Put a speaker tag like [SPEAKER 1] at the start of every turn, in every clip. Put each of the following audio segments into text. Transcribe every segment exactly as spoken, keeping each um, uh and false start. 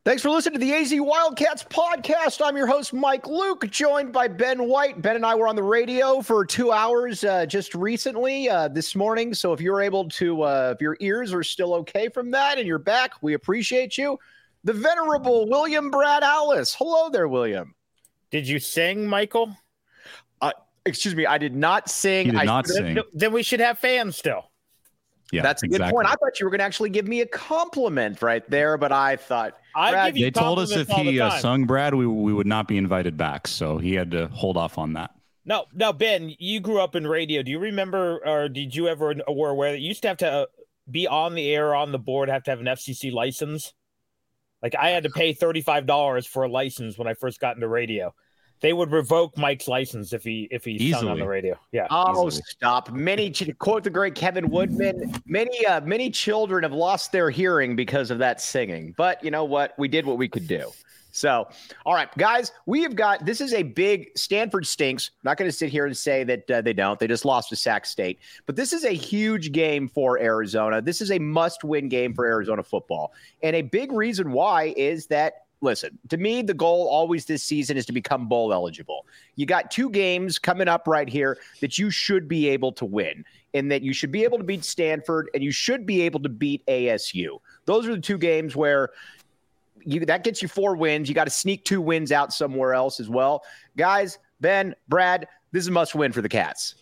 [SPEAKER 1] Thanks for listening to the A Z Wildcats podcast. I'm your host, Mike Luke, joined by Ben White. Ben and I were on the radio for two hours uh, just recently uh, this morning. So if you're able to, uh, if your ears are still okay from that and you're back, we appreciate you. The venerable William Brad Allis. Hello there, William.
[SPEAKER 2] Did you sing, Michael?
[SPEAKER 1] Uh, excuse me, I did not sing.
[SPEAKER 3] He did
[SPEAKER 1] I
[SPEAKER 3] not sing.
[SPEAKER 2] Then we should have fans still.
[SPEAKER 1] Yeah, that's a exactly. good point. I thought you were going to actually give me a compliment right there, but I thought
[SPEAKER 2] I give you
[SPEAKER 3] they told us if he uh, sung Brad, we we would not be invited back, so he had to hold off on that.
[SPEAKER 2] No, no, Ben, you grew up in radio. Do you remember, or did you ever were aware that you used to have to uh, be on the air, on the board, have to have an F C C license? Like I had to pay thirty-five dollars for a license when I first got into radio. They would revoke Mike's license if he if he sung on the radio. Yeah.
[SPEAKER 1] Oh,
[SPEAKER 2] easily.
[SPEAKER 1] Stop! Many quote the great Kevin Woodman. Many uh, many children have lost their hearing because of that singing. But you know what? We did what we could do. So, all right, guys, we have got this is a big Stanford stinks. I'm not going to sit here and say that uh, they don't. They just lost to Sac State. But this is a huge game for Arizona. This is a must-win game for Arizona football. And a big reason why is that. Listen, to me, the goal always this season is to become bowl eligible. You got two games coming up right here that you should be able to win, and that you should be able to beat Stanford, and you should be able to beat A S U. Those are the two games where you that gets you four wins. You got to sneak two wins out somewhere else as well. Guys, Ben, Brad, this is a must win for the Cats.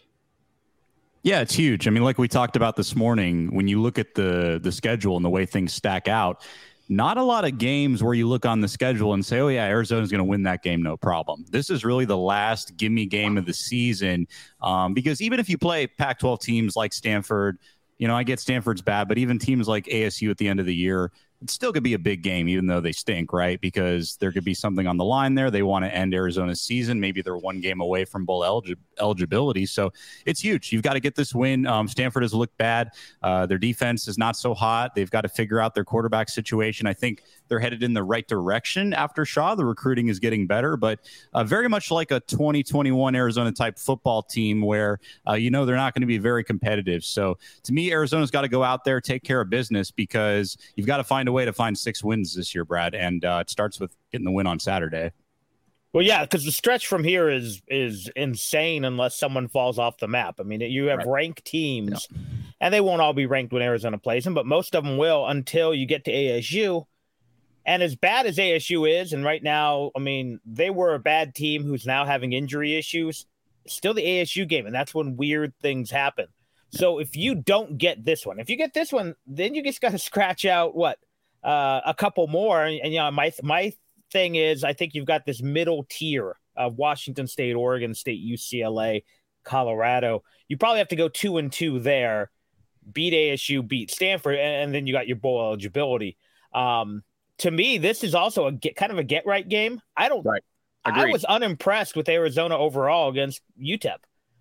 [SPEAKER 3] Yeah, it's huge. I mean, like we talked about this morning, when you look at the the schedule and the way things stack out, not a lot of games where you look on the schedule and say, oh, yeah, Arizona's going to win that game, no problem. This is really the last gimme game of the season um, because even if you play Pac twelve teams like Stanford, you know, I get Stanford's bad, but even teams like A S U at the end of the year, it still could be a big game, even though they stink, right? Because there could be something on the line there. They want to end Arizona's season. Maybe they're one game away from bowl elig- eligibility. So it's huge. You've got to get this win. Um, Stanford has looked bad. Uh, their defense is not so hot. They've got to figure out their quarterback situation. I think they're headed in the right direction after Shaw. The recruiting is getting better, but uh, very much like a twenty twenty-one Arizona type football team where, uh, you know, they're not going to be very competitive. So to me, Arizona's got to go out there, take care of business because you've got to find a way to find six wins this year, Brad, and uh, it starts with getting the win on Saturday.
[SPEAKER 2] Well, yeah, because the stretch from here is is insane unless someone falls off the map. I mean, you have right. ranked teams, yeah. and they won't all be ranked when Arizona plays them, but most of them will until you get to A S U. And as bad as A S U is, and right now, I mean, they were a bad team who's now having injury issues, still the A S U game, and that's when weird things happen. So if you don't get this one, if you get this one, then you just got to scratch out, what, Uh, a couple more, and, and you know, my my thing is, I think you've got this middle tier of Washington State, Oregon State, U C L A, Colorado. You probably have to go two and two there, beat A S U, beat Stanford, and, and then you got your bowl eligibility. Um, to me, this is also a get, kind of a get right game. I don't.
[SPEAKER 1] Right.
[SPEAKER 2] I was unimpressed with Arizona overall against U T E P.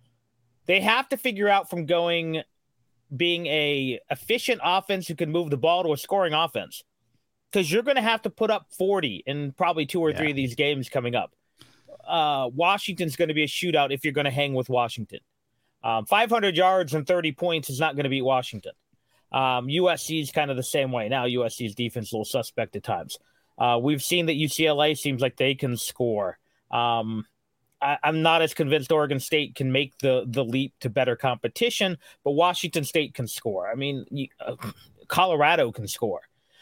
[SPEAKER 2] They have to figure out from going being a efficient offense who can move the ball to a scoring offense. Because you're going to have to put up forty in probably two or yeah. three of these games coming up. Uh, Washington's going to be a shootout if you're going to hang with Washington. Um, five hundred yards and thirty points is not going to beat Washington. Um, U S C is kind of the same way. Now U S C's defense is a little suspect at times. Uh, we've seen that U C L A seems like they can score. Um, I, I'm not as convinced Oregon State can make the, the leap to better competition, but Washington State can score. I mean, you, uh, Colorado can score.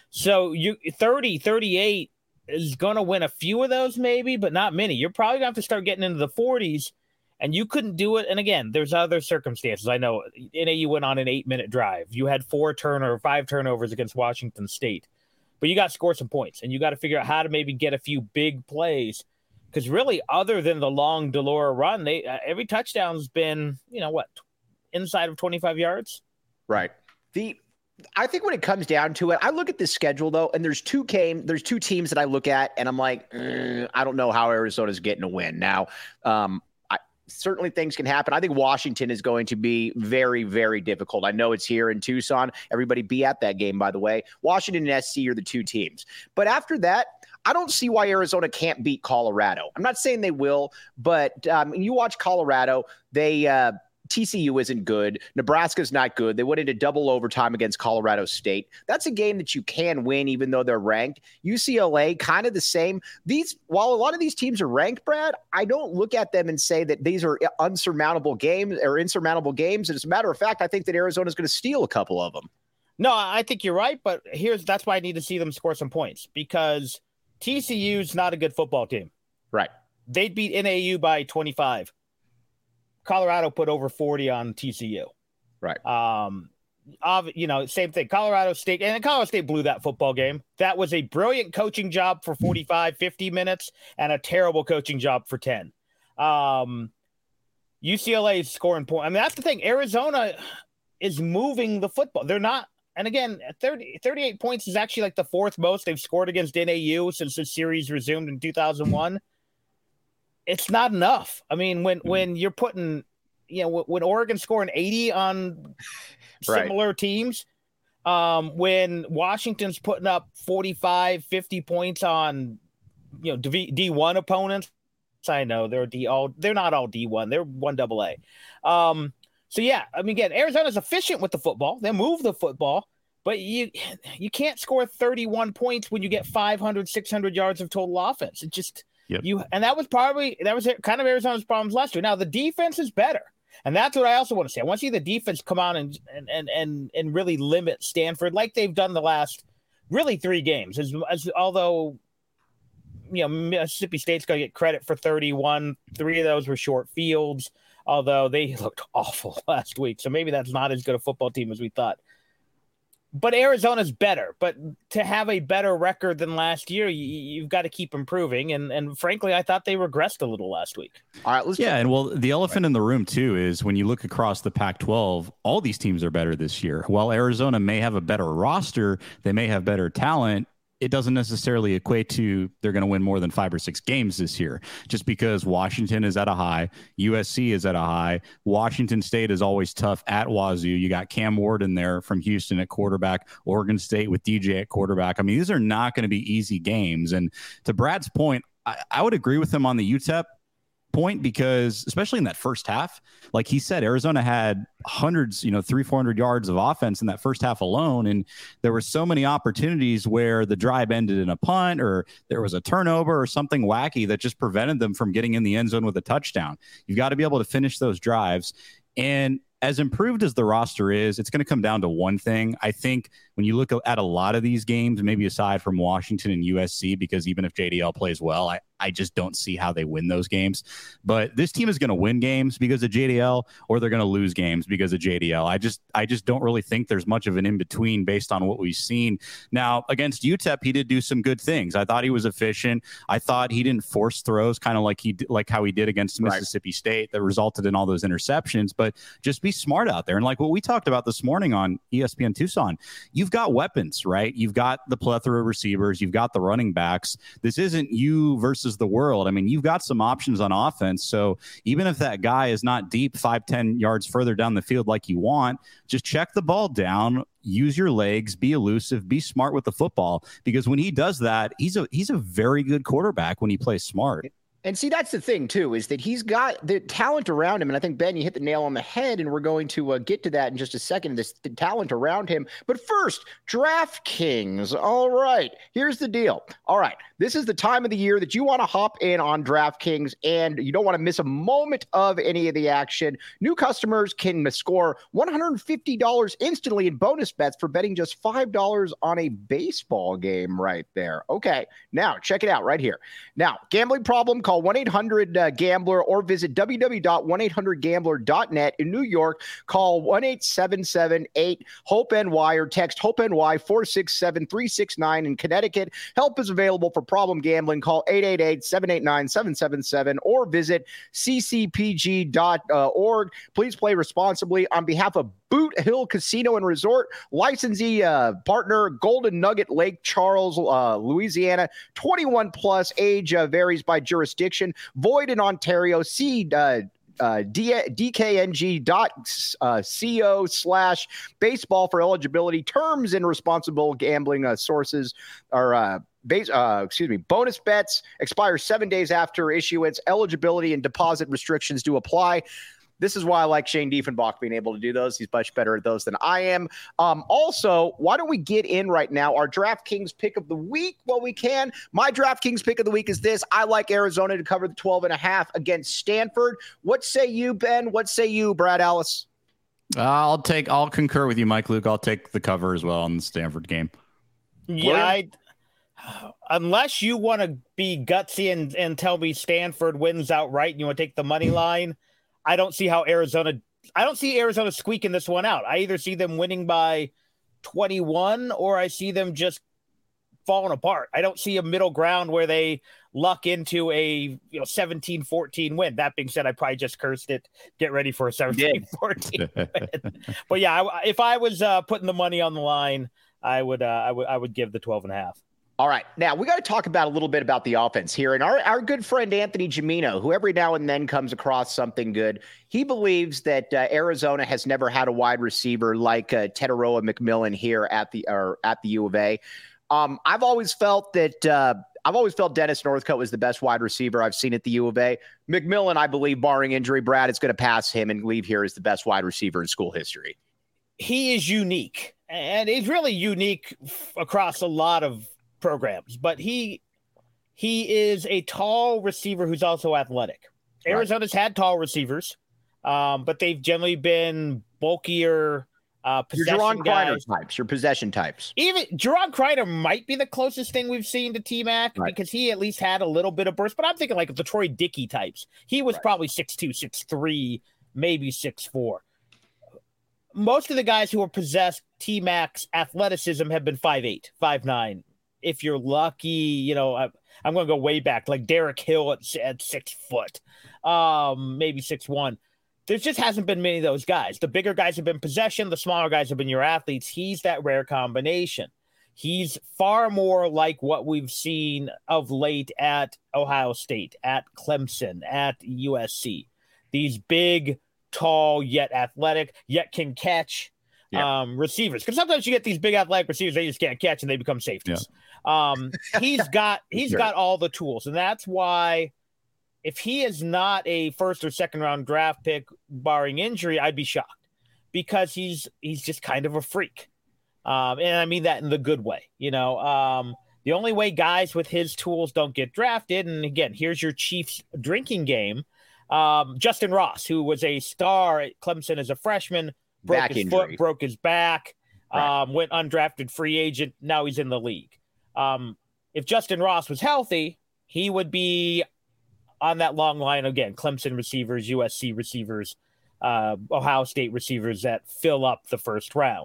[SPEAKER 2] So you thirty, thirty-eight is going to win a few of those maybe, but not many. You're probably going to have to start getting into the forties, and you couldn't do it. And again, there's other circumstances. I know N A U went on an eight-minute drive. You had four turnover, five turnovers against Washington State. But you got to score some points, and you got to figure out how to maybe get a few big plays. Because really, other than the long Delora run, they uh, every touchdown's been, you know, what, inside of twenty-five yards?
[SPEAKER 1] Right. The I think when it comes down to it, I look at this schedule, though, and there's two game, there's two teams that I look at, and I'm like, mm, I don't know how Arizona's getting a win. Now, um, I, certainly things can happen. I think Washington is going to be very, very difficult. I know it's here in Tucson. Everybody be at that game, by the way. Washington and S C are the two teams. But after that, I don't see why Arizona can't beat Colorado. I'm not saying they will, but um, you watch Colorado, they uh, – T C U isn't good. Nebraska's not good. They went into double overtime against Colorado State. That's a game that you can win, even though they're ranked. U C L A, kind of the same. These, while a lot of these teams are ranked, Brad, I don't look at them and say that these are unsurmountable games or insurmountable games. And as a matter of fact, I think that Arizona's going to steal a couple of them.
[SPEAKER 2] No, I think you're right, but here's that's why I need to see them score some points, because T C U's not a good football team.
[SPEAKER 1] Right.
[SPEAKER 2] They beat N A U by twenty-five. Colorado put over forty on T C U.
[SPEAKER 1] Right.
[SPEAKER 2] Um, you know, same thing. Colorado State, and Colorado State blew that football game. That was a brilliant coaching job for forty-five, fifty minutes and a terrible coaching job for ten. Um, U C L A is scoring points. I mean, that's the thing. Arizona is moving the football. They're not. And again, thirty, thirty-eight points is actually like the fourth most they've scored against N A U since the series resumed in two thousand one. It's not enough. I mean, when, when you're putting, you know, when Oregon's scoring eighty on similar right. teams, um, when Washington's putting up forty-five, fifty points on, you know, D one opponents, I know they're D all, they're not all D one, they're one double A. Um, so yeah, I mean, again, Arizona's efficient with the football. They move the football, but you, you can't score thirty-one points when you get five hundred, six hundred yards of total offense. It just, Yep. You and that was probably that was kind of Arizona's problems last year. Now the defense is better, and that's what I also want to say. I want to see the defense come on and and and and really limit Stanford like they've done the last really three games. As, as although you know Mississippi State's going to get credit for thirty-one, three of those were short fields. Although they looked awful last week, so maybe that's not as good a football team as we thought. But Arizona's better. But to have a better record than last year, you, you've got to keep improving. And and frankly, I thought they regressed a little last week.
[SPEAKER 1] All right, let's
[SPEAKER 3] yeah, and well, the elephant right. in the room too is when you look across the Pac twelve, all these teams are better this year. While Arizona may have a better roster, they may have better talent. It doesn't necessarily equate to they're going to win more than five or six games this year, just because Washington is at a high, U S C is at a high. Washington State is always tough at Wazoo. You got Cam Ward in there from Houston at quarterback, Oregon State with D J at quarterback. I mean, these are not going to be easy games. And to Brad's point, I, I would agree with him on the U T E P point, because especially in that first half, like he said, Arizona had hundreds, you know, three, four hundred yards of offense in that first half alone. And there were so many opportunities where the drive ended in a punt or there was a turnover or something wacky that just prevented them from getting in the end zone with a touchdown. You've got to be able to finish those drives. And as improved as the roster is, it's going to come down to one thing. I think when you look at a lot of these games, maybe aside from Washington and U S C, because even if J D L plays well, I, I just don't see how they win those games. But this team is going to win games because of J D L, or they're going to lose games because of J D L. I just I just don't really think there's much of an in-between based on what we've seen. Now, against U T E P, he did do some good things. I thought he was efficient. I thought he didn't force throws, kind of like he like how he did against Mississippi right. State that resulted in all those interceptions. But just be smart out there. And like what we talked about this morning on E S P N Tucson, you've got weapons, right? You've got the plethora of receivers. You've got the running backs. This isn't you versus the world. I mean, you've got some options on offense. So even if that guy is not deep five, ten yards further down the field like you want, just check the ball down, use your legs, be elusive, be smart with the football, because when he does that, he's a he's a very good quarterback when he plays smart.
[SPEAKER 1] And see, that's the thing, too, is that he's got the talent around him. And I think, Ben, you hit the nail on the head, and we're going to uh, get to that in just a second, this the talent around him. But first, DraftKings. All right, here's the deal. All right, this is the time of the year that you want to hop in on DraftKings, and you don't want to miss a moment of any of the action. New customers can score one hundred fifty dollars instantly in bonus bets for betting just five dollars on a baseball game right there. Okay, now check it out right here. Now, gambling problem, call one eight hundred gambler or visit w w w dot one eight hundred gambler dot net. In New York, call one eight seven seven eight hope N Y or text HOPE-NY four six seven three six nine. In Connecticut, help is available for problem gambling. Call eight eight eight seven eight nine seven seven seven or visit c c p g dot org. Please play responsibly. On behalf of Boot Hill Casino and Resort, licensee uh, partner Golden Nugget, Lake Charles, uh, Louisiana. twenty-one plus, age uh, varies by jurisdiction. Void in Ontario. See uh, uh, D K N G dot co slash baseball for eligibility. Terms and responsible gambling uh, sources are uh, base. Uh, excuse me. Bonus bets expire seven days after issuance. Eligibility and deposit restrictions do apply. This is why I like Shane Diefenbach being able to do those. He's much better at those than I am. Um, also, why don't we get in right now our DraftKings pick of the week while we can? My DraftKings pick of the week is this. I like Arizona to cover the twelve and a half against Stanford. What say you, Ben? What say you, Brad Ellis?
[SPEAKER 3] Uh, I'll take. I'll concur with you, Mike Luke. I'll take the cover as well in the Stanford game.
[SPEAKER 2] Yeah, I, unless you want to be gutsy and, and tell me Stanford wins outright and you want to take the money line, I don't see how Arizona – I don't see Arizona squeaking this one out. I either see them winning by twenty-one or I see them just falling apart. I don't see a middle ground where they luck into a you know seventeen fourteen win. That being said, I probably just cursed it. Get ready for a seventeen fourteen win. But, yeah, I, if I was uh, putting the money on the line, I would, uh, I would I would give the twelve and a half.
[SPEAKER 1] All right. Now, we got to talk about a little bit about the offense here. And our, our good friend Anthony Gimino, who every now and then comes across something good, he believes that uh, Arizona has never had a wide receiver like uh, Tetairoa McMillan here at the or at the U of A. Um, I've always felt that uh, I've always felt Dennis Northcutt was the best wide receiver I've seen at the U of A. McMillan, I believe, barring injury, Brad, is going to pass him and leave here as the best wide receiver in school history.
[SPEAKER 2] He is unique, and he's really unique f- across a lot of programs, but he he is a tall receiver who's also athletic. Right. Arizona's had tall receivers, um, but they've generally been bulkier uh, possession
[SPEAKER 1] your Jerron
[SPEAKER 2] guys.
[SPEAKER 1] Kreiner types, your possession types.
[SPEAKER 2] Even Jerron Kreiner might be the closest thing we've seen to T-Mac right. because he at least had a little bit of burst, but I'm thinking like the Troy Dickey types. He was right. probably six two, six three, maybe six four. Most of the guys who are possessed T-Mac's athleticism have been five eight, five nine. If you're lucky, you know, I, I'm going to go way back, like Derek Hill at, at six foot, um, maybe six one. There just hasn't been many of those guys. The bigger guys have been possession. The smaller guys have been your athletes. He's that rare combination. He's far more like what we've seen of late at Ohio State, at Clemson, at U S C. These big, tall, yet athletic, yet can catch. Yeah. Um, receivers, because sometimes you get these big athletic receivers, they just can't catch and they become safeties. Yeah. Um, he's got he's sure. got all the tools, and that's why if he is not a first or second round draft pick, barring injury, I'd be shocked because he's he's just kind of a freak, um, and I mean that in the good way. You know, um, the only way guys with his tools don't get drafted, and again, here's your Chiefs drinking game. Um, Justin Ross, who was a star at Clemson as a freshman. Broke back his injury. foot, broke his back, right. um, went undrafted free agent. Now he's in the league. Um, if Justin Ross was healthy, he would be on that long line again. Clemson receivers, U S C receivers, uh, Ohio State receivers that fill up the first round.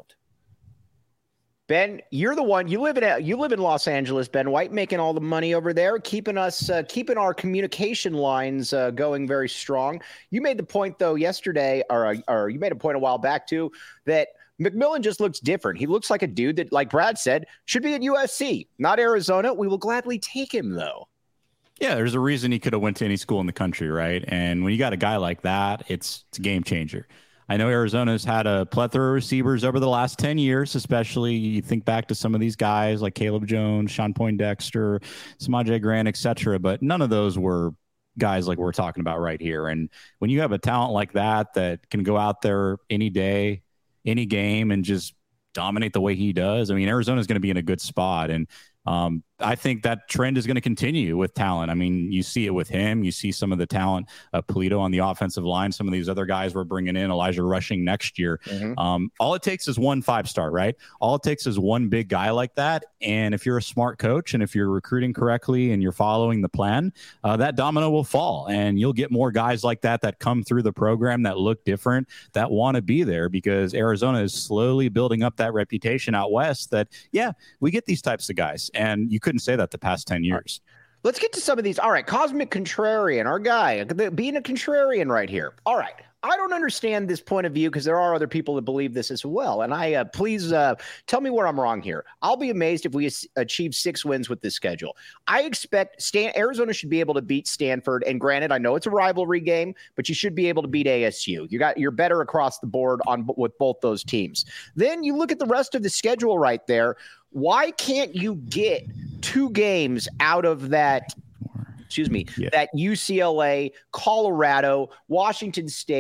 [SPEAKER 1] Ben, you're the one. You live in you live in Los Angeles. Ben White making all the money over there, keeping us uh, keeping our communication lines uh, going very strong. You made the point though yesterday, or or you made a point a while back too, that McMillan just looks different. He looks like a dude that, like Brad said, should be at U S C, not Arizona. We will gladly take him though.
[SPEAKER 3] Yeah, there's a reason he could have went to any school in the country, right? And when you got a guy like that, it's it's a game changer. I know Arizona's had a plethora of receivers over the last ten years, especially you think back to some of these guys like Caleb Jones, Sean Poindexter, Samaje Grant, et cetera. But none of those were guys like we're talking about right here. And when you have a talent like that that can go out there any day, any game, and just dominate the way he does, I mean, Arizona's going to be in a good spot. And Um, I think that trend is going to continue with talent. I mean, you see it with him. You see some of the talent, uh, Polito on the offensive line, some of these other guys we're bringing in, Elijah Rushing next year. Mm-hmm. Um, all it takes is one five-star, right? All it takes is one big guy like that. And if you're a smart coach and if you're recruiting correctly and you're following the plan, uh, that domino will fall. And you'll get more guys like that that come through the program that look different, that want to be there, because Arizona is slowly building up that reputation out west that, yeah, we get these types of guys. And you couldn't say that the past ten years.
[SPEAKER 1] Let's get to some of these. All right. Cosmic Contrarian, our guy, being a contrarian right here. All right. I don't understand this point of view because there are other people that believe this as well. And I uh, please uh, tell me where I'm wrong here. I'll be amazed if we achieve six wins with this schedule. I expect Stan- Arizona should be able to beat Stanford. And granted, I know it's a rivalry game, but you should be able to beat A S U. You got, you're better across the board on with both those teams. Then you look at the rest of the schedule right there. Why can't you get two games out of that? Excuse me, yeah. that U C L A, Colorado, Washington State,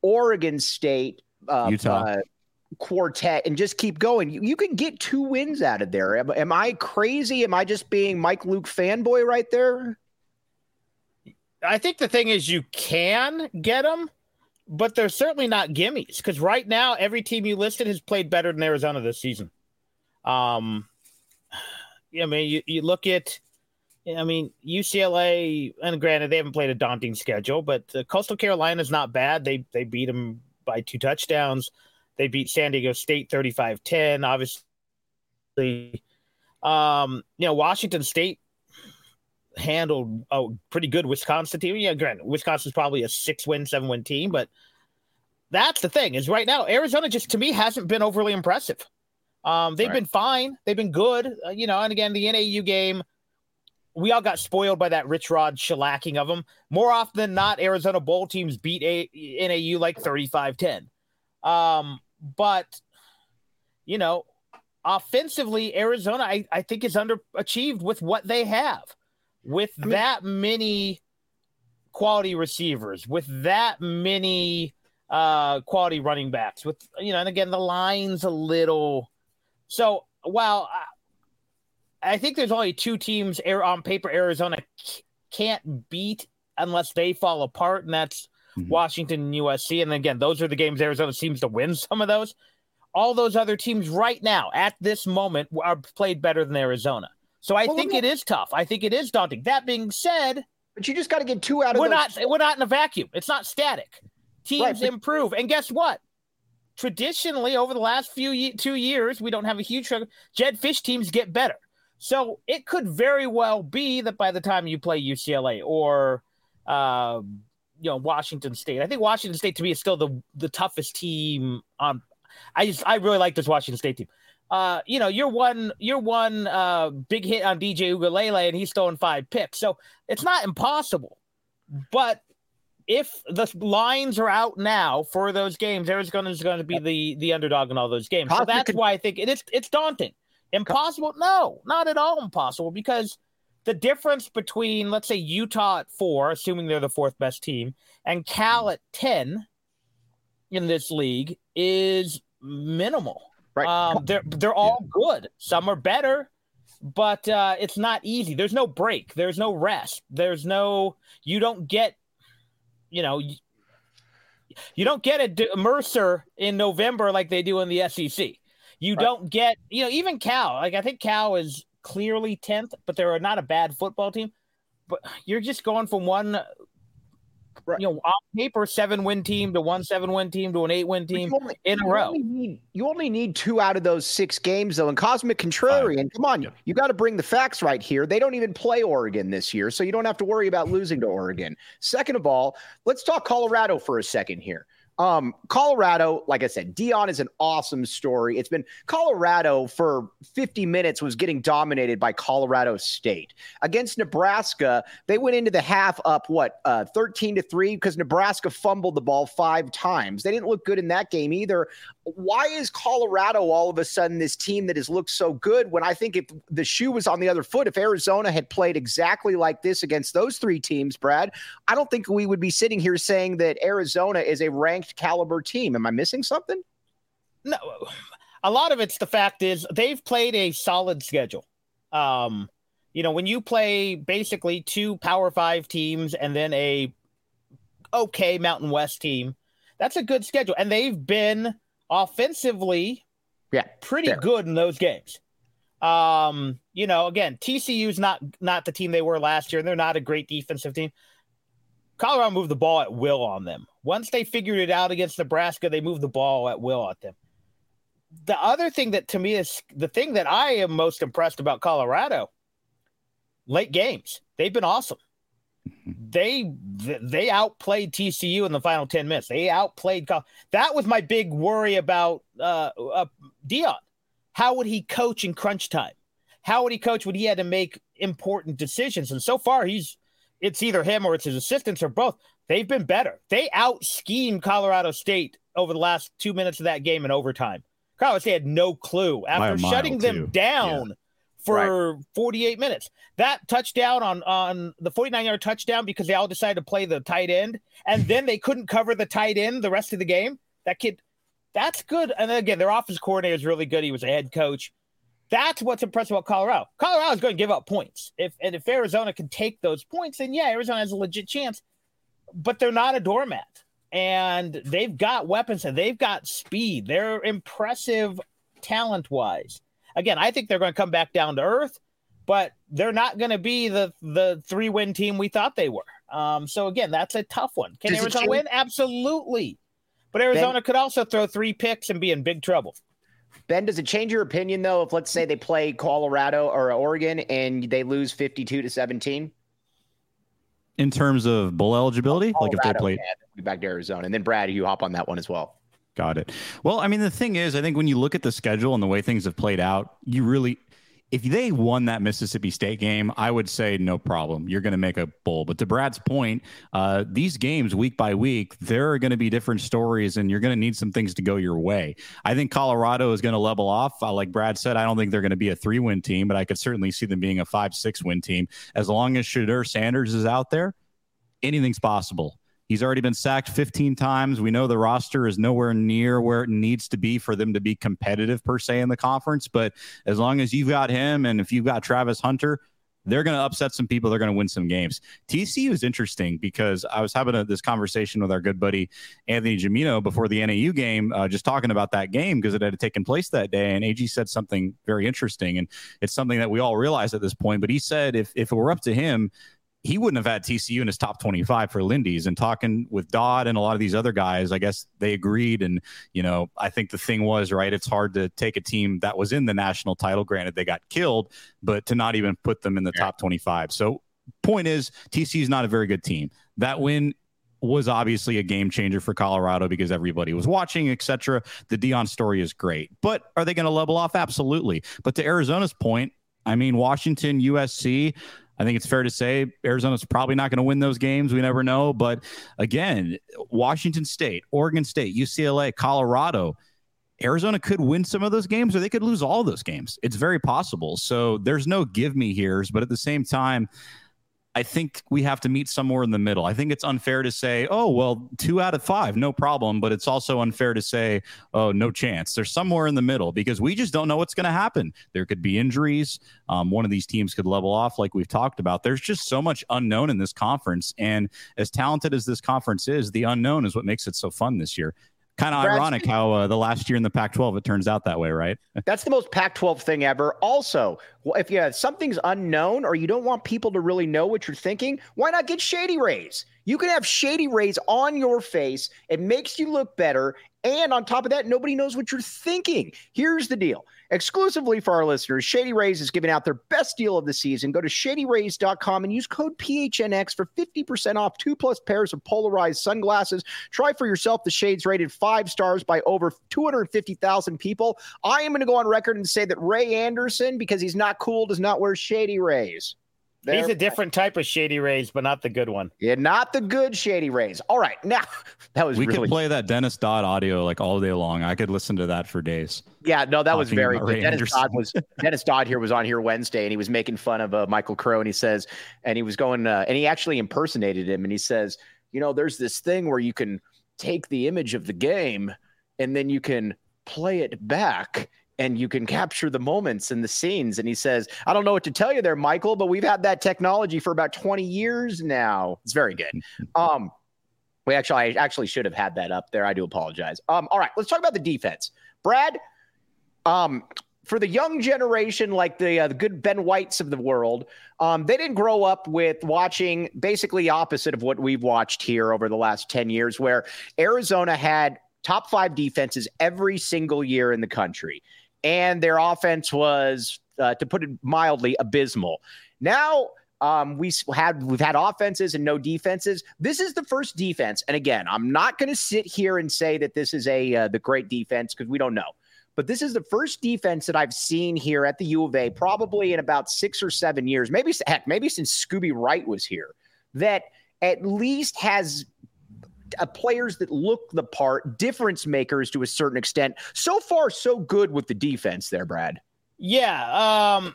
[SPEAKER 1] Oregon State, uh,
[SPEAKER 3] Utah.
[SPEAKER 1] Uh, quartet and just keep going. You, you can get two wins out of there. Am, am I crazy? Am I just being Mike Luke fanboy right there?
[SPEAKER 2] I think the thing is you can get them, but they're certainly not gimmies because right now every team you listed has played better than Arizona this season. Um, I mean, you, you look at, I mean, U C L A, and granted they haven't played a daunting schedule, but uh, Coastal Carolina is not bad. They they beat them by two touchdowns. They beat San Diego State thirty-five ten. Obviously, um, you know, Washington State handled a pretty good Wisconsin team. Yeah, granted, Wisconsin's probably a six-win, seven-win team, but that's the thing is right now, Arizona just, to me, hasn't been overly impressive. Um, they've right. been fine. They've been good. Uh, you know, and again, the N A U game, we all got spoiled by that Rich Rod shellacking of them. More often than not, Arizona Bowl teams beat a- N A U like thirty-five ten. Um, but, you know, offensively, Arizona, I, I think, is underachieved with what they have. With I mean, that many quality receivers, with that many uh, quality running backs, with, you know, and again, the line's a little. So, while I, I think there's only two teams on paper Arizona can't beat unless they fall apart, and that's Mm-hmm. Washington and U S C. And again, those are the games Arizona seems to win some of those. All those other teams right now at this moment are played better than Arizona. So I well, think it is tough. I think it is daunting. That being said,
[SPEAKER 1] but you just got to get two out of
[SPEAKER 2] we're
[SPEAKER 1] those.
[SPEAKER 2] not we're not in a vacuum. It's not static. Teams right, but- improve. And guess what? Traditionally, over the last few two years, we don't have a huge Jed Fish teams get better. So it could very well be that by the time you play U C L A or uh, you know, Washington State. I think Washington State to me is still the the toughest team on. I just I really like this Washington State team. Uh, you know, you're one you're one uh, big hit on D J Uiagalelei and he's throwing five picks, so it's not impossible. But if the lines are out now for those games, Arizona is going to be the the underdog in all those games. So that's why I think it is it's daunting. Impossible? No, not at all impossible because. The difference between, let's say, Utah at four, assuming they're the fourth best team, and Cal at ten in this league is minimal.
[SPEAKER 1] Right.
[SPEAKER 2] Um, they're they're all good. Some are better, but uh, it's not easy. There's no break. There's no rest. There's no – you don't get – you know, you, you don't get a D- Mercer in November like they do in the S E C. You right. don't get – you know, even Cal. Like I think Cal is – clearly tenth, but they're not a bad football team. But you're just going from one, right. you know, on paper seven win team to one seven win team to an eight win team only, in a row.
[SPEAKER 1] Only need, you only need two out of those six games, though. And Cosmic Contrarian, come on, yeah. you got to bring the facts right here. They don't even play Oregon this year, so you don't have to worry about losing to Oregon. Second of all, let's talk Colorado for a second here. Um, Colorado, like I said, Deion is an awesome story. It's been Colorado for fifty minutes was getting dominated by Colorado State. Against Nebraska, they went into the half up, what, uh, thirteen to three because Nebraska fumbled the ball five times. They didn't look good in that game either. Why is Colorado all of a sudden this team that has looked so good when I think if the shoe was on the other foot, if Arizona had played exactly like this against those three teams, Brad, I don't think we would be sitting here saying that Arizona is a ranked caliber team. Am I missing something?
[SPEAKER 2] No, a lot of it's the fact is they've played a solid schedule. Um, you know, when you play basically two Power Five teams and then a okay Mountain West team, that's a good schedule. And they've been offensively
[SPEAKER 1] yeah,
[SPEAKER 2] pretty
[SPEAKER 1] fair.
[SPEAKER 2] good in those games. Um, you know, again, T C U's not not the team they were last year, and they're not a great defensive team. Colorado moved the ball at will on them. Once they figured it out against Nebraska, they moved the ball at will at them. The other thing that to me is the thing that I am most impressed about Colorado, late games. They've been awesome. They they outplayed T C U in the final ten minutes. They outplayed. That was my big worry about uh, uh, Deion. How would he coach in crunch time? How would he coach when he had to make important decisions? And so far, he's it's either him or it's his assistants or both. They've been better. They out-schemed Colorado State over the last two minutes of that game in overtime. Colorado State had no clue. After shutting them down yeah. for right. forty-eight minutes. That touchdown on, on the forty-nine-yard touchdown because they all decided to play the tight end, and then they couldn't cover the tight end the rest of the game. That kid, that's good. And then again, their offensive coordinator is really good. He was a head coach. That's what's impressive about Colorado. Colorado is going to give up points. If and if Arizona can take those points, then yeah, Arizona has a legit chance. But they're not a doormat. And they've got weapons and they've got speed. They're impressive talent-wise. Again, I think they're going to come back down to earth, but they're not going to be the the three-win team we thought they were. Um, so again, that's a tough one. Can Does Arizona win? Absolutely. But Arizona ben, could also throw three picks and be in big trouble.
[SPEAKER 1] Ben, does it change your opinion, though, if let's say they play Colorado or Oregon and they lose fifty-two to seventeen?
[SPEAKER 3] In terms of bowl eligibility?
[SPEAKER 1] Colorado,
[SPEAKER 3] like if they played
[SPEAKER 1] yeah, back to Arizona. And then, Brad, you hop on that one as well.
[SPEAKER 3] Got it. Well, I mean, the thing is, I think when you look at the schedule and the way things have played out, you really – if they won that Mississippi State game, I would say no problem. You're going to make a bowl. But to Brad's point, uh, these games week by week, there are going to be different stories, and you're going to need some things to go your way. I think Colorado is going to level off. Uh, like Brad said, I don't think they're going to be a three-win team, but I could certainly see them being a five, six-win team. As long as Shedeur Sanders is out there, anything's possible. He's already been sacked fifteen times. We know the roster is nowhere near where it needs to be for them to be competitive per se in the conference. But as long as you've got him and if you've got Travis Hunter, they're going to upset some people. They're going to win some games. T C U is interesting because I was having a, this conversation with our good buddy Anthony Gimino before the N A U game, uh, just talking about that game because it had taken place that day. And A G said something very interesting, and it's something that we all realize at this point. But he said if, if it were up to him, he wouldn't have had T C U in his top twenty-five for Lindy's. And talking with Dodd and a lot of these other guys, I guess they agreed. And, you know, I think the thing was, right, it's hard to take a team that was in the national title. Granted, they got killed, but to not even put them in the yeah. top twenty-five. So point is, T C U is not a very good team. That win was obviously a game changer for Colorado because everybody was watching, et cetera. The Deion story is great. But are they going to level off? Absolutely. But to Arizona's point, I mean, Washington, U S C, I think it's fair to say Arizona's probably not going to win those games. We never know. But again, Washington State, Oregon State, U C L A, Colorado, Arizona could win some of those games or they could lose all those games. It's very possible. So there's no give me here's, but at the same time, I think we have to meet somewhere in the middle. I think it's unfair to say, oh, well, two out of five, no problem. But it's also unfair to say, oh, no chance. There's somewhere in the middle because we just don't know what's going to happen. There could be injuries. Um, one of these teams could level off like we've talked about. There's just so much unknown in this conference. And as talented as this conference is, the unknown is what makes it so fun this year. Kind of ironic how uh, the last year in the Pac twelve, it turns out that way, right?
[SPEAKER 1] That's the most Pac twelve thing ever. Also, if you have something's unknown or you don't want people to really know what you're thinking, why not get Shady Rays? You can have Shady Rays on your face. It makes you look better. And on top of that, nobody knows what you're thinking. Here's the deal. Exclusively for our listeners, Shady Rays is giving out their best deal of the season. Go to shady rays dot com and use code P H N X for fifty percent off two plus pairs of polarized sunglasses. Try for yourself the shades rated five stars by over two hundred fifty thousand people. I am going to go on record and say that Ray Anderson, because he's not cool, does not wear Shady Rays.
[SPEAKER 2] They're, He's a different type of Shady Rays, but not the good one.
[SPEAKER 1] Yeah, not the good Shady Rays. All right, now that was
[SPEAKER 3] we
[SPEAKER 1] really...
[SPEAKER 3] could play that Dennis Dodd audio like all day long. I could listen to that for days.
[SPEAKER 1] Yeah, no, that was very good. Dennis Dodd was Dennis Dodd here was on here Wednesday, and he was making fun of uh, Michael Crow, and he says, and he was going, uh, and he actually impersonated him, and he says, you know, there's this thing where you can take the image of the game, and then you can play it back. And you can capture the moments and the scenes. And he says, I don't know what to tell you there, Michael, but we've had that technology for about twenty years now. It's very good. Um, we actually, I actually should have had that up there. I do apologize. Um, all right, let's talk about the defense. Brad, um, for the young generation, like the, uh, the good Ben Whites of the world, um, they didn't grow up with watching basically opposite of what we've watched here over the last ten years, where Arizona had top five defenses every single year in the country. And their offense was, uh, to put it mildly, abysmal. Now um, we had we've had offenses and no defenses. This is the first defense, and again, I'm not going to sit here and say that this is a uh, the great defense because we don't know. But this is the first defense that I've seen here at the U of A, probably in about six or seven years, maybe heck, maybe since Scooby Wright was here, that at least has Uh, players that look the part, difference makers to a certain extent. So far, so good with the defense there, Brad.
[SPEAKER 2] Yeah. Um,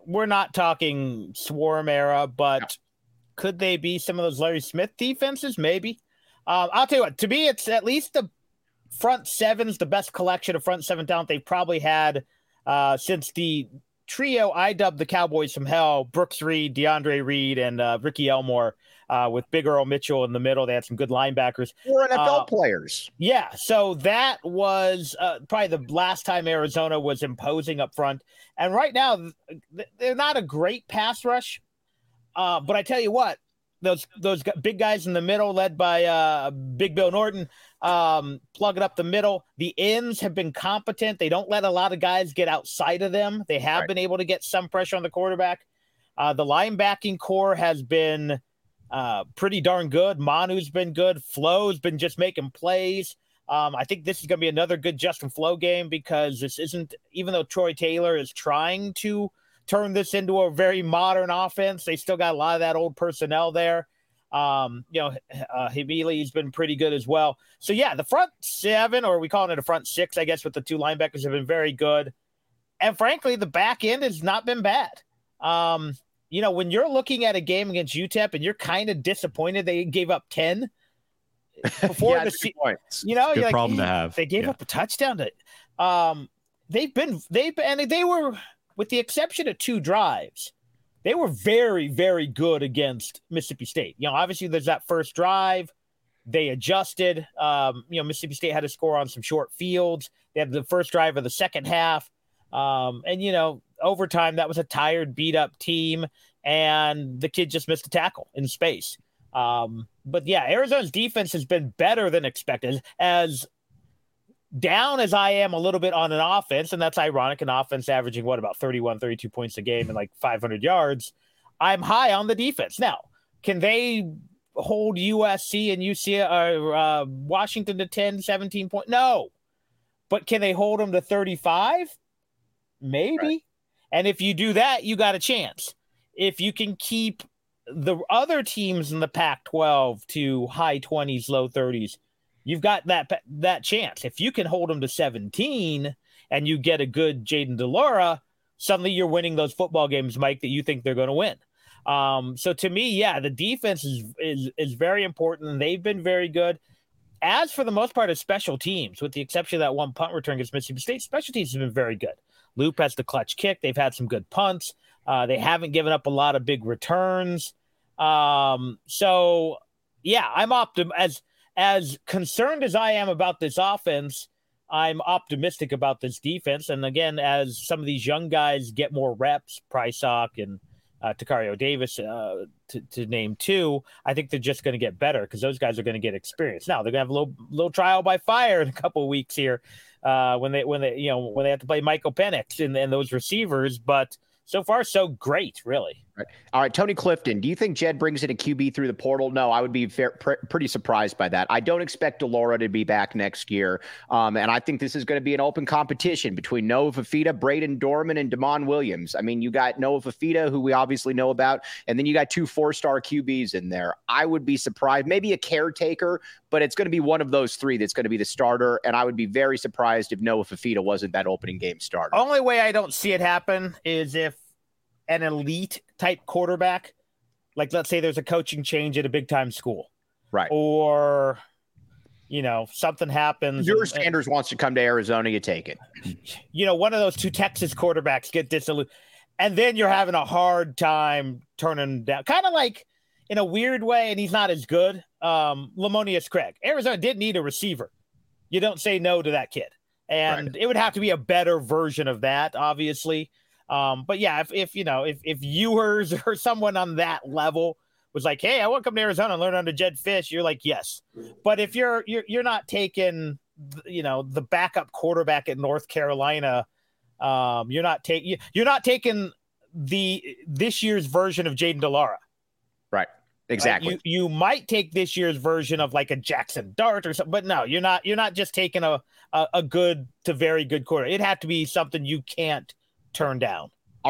[SPEAKER 2] we're not talking swarm era, but
[SPEAKER 1] No.
[SPEAKER 2] could they be some of those Larry Smith defenses? Maybe. Um, I'll tell you what, to me, it's at least the front seven's the best collection of front seven talent they've probably had uh, since the trio I dubbed the Cowboys from Hell: Brooks Reed, DeAndre Reed, and uh, Ricky Elmore, uh, with Big Earl Mitchell in the middle. They had some good linebackers.
[SPEAKER 1] We're N F L
[SPEAKER 2] Uh,
[SPEAKER 1] players.
[SPEAKER 2] Yeah, so that was uh, probably the last time Arizona was imposing up front. And right now, th- they're not a great pass rush. Uh, but I tell you what, those those g- big guys in the middle, led by uh, Big Bill Norton, um, plugging up the middle. The ends have been competent. They don't let a lot of guys get outside of them. They have
[SPEAKER 1] Right.
[SPEAKER 2] been able to get some pressure on the quarterback. Uh, the linebacking core has been uh, pretty darn good. Manu's been good. Flo's been just making plays. Um, I think this is going to be another good Justin Flo game, because this isn't, even though Troy Taylor is trying to turn this into a very modern offense, they still got a lot of that old personnel there. Um, you know, uh, Hibili's been pretty good as well. So yeah, the front seven, or we call it a front six, I guess, with the two linebackers, have been very good. And frankly, the back end has not been bad. Um, you know, when you're looking at a game against U T E P and you're kind of disappointed they gave up ten before
[SPEAKER 1] Yeah,
[SPEAKER 2] the
[SPEAKER 1] that's a
[SPEAKER 2] se-
[SPEAKER 1] good point.
[SPEAKER 2] you know,
[SPEAKER 3] Good
[SPEAKER 2] you're like,
[SPEAKER 3] problem to
[SPEAKER 2] "Eh,
[SPEAKER 3] have."
[SPEAKER 2] They gave
[SPEAKER 3] Yeah.
[SPEAKER 2] up a touchdown to um they've been they've been and they were, with the exception of two drives, they were very, very good against Mississippi State. You know, obviously there's that first drive. They adjusted. Um, you know, Mississippi State had to score on some short fields. They had the first drive of the second half. Um, and, you know, overtime, that was a tired, beat up team. And the kid just missed a tackle in space. Um, but yeah, Arizona's defense has been better than expected. As down as I am a little bit on an offense, and that's ironic, an offense averaging what, about thirty-one, thirty-two points a game and like five hundred yards, I'm high on the defense. Now, can they hold U S C and U C or uh, Washington to ten, seventeen points? No. But can they hold them to thirty-five? Maybe. Right. And if you do that, you got a chance. If you can keep the other teams in the Pac twelve to high twenties, low thirties, you've got that that chance. If you can hold them to seventeen and you get a good Jayden de Laura, suddenly you're winning those football games, Mike, that you think they're going to win. Um, so to me, yeah, the defense is, is is very important, and they've been very good. As for the most part of special teams, with the exception of that one punt return against Mississippi State, special teams have been very good. Loop has the clutch kick. They've had some good punts. Uh, they haven't given up a lot of big returns. Um, so, yeah, I'm optim as as concerned as I am about this offense. I'm optimistic about this defense. And again, as some of these young guys get more reps, Prysock and uh, Takario Davis, uh, to, to name two, I think they're just going to get better, because those guys are going to get experience. Now they're going to have a little little trial by fire in a couple of weeks here uh, when they when they you know when they have to play Michael Penix and, and those receivers. But so far, so great, really.
[SPEAKER 1] Right. All right, Tony Clifton, do you think Jed brings in a Q B through the portal? No, I would be fair, pr- pretty surprised by that. I don't expect de Laura to be back next year, um, and I think this is going to be an open competition between Noah Fafita, Braden Dorman, and Damon Williams. I mean, you got Noah Fafita, who we obviously know about, and then you got two four-star Q Bs in there. I would be surprised, maybe a caretaker, but it's going to be one of those three that's going to be the starter, and I would be very surprised if Noah Fafita wasn't that opening game starter.
[SPEAKER 2] Only way I don't see it happen is if an elite type quarterback, like let's say there's a coaching change at a big time school,
[SPEAKER 1] right?
[SPEAKER 2] Or, you know, something happens.
[SPEAKER 1] Your Sanders wants to come to Arizona, you take it.
[SPEAKER 2] You know, one of those two Texas quarterbacks get disillusioned, and then you're having a hard time turning down, kind of like in a weird way, and he's not as good. Um, Lamonius Craig. Arizona did need a receiver. You don't say no to that kid. And right. It would have to be a better version of that, obviously. Um, but yeah, if, if, you know, if, if Ewers or someone on that level was like, hey, I want to come to Arizona and learn under Jed Fish, you're like, yes. But if you're, you're, you're not taking, you know, the backup quarterback at North Carolina, um, you're not taking, you're not taking the, this year's version of Jayden de Laura.
[SPEAKER 1] Right. Exactly.
[SPEAKER 2] Right? You, you might take this year's version of like a Jackson Dart or something, but no, you're not, you're not just taking a, a, a good to very good quarter. It'd have to be something you can't turn down.
[SPEAKER 1] All right.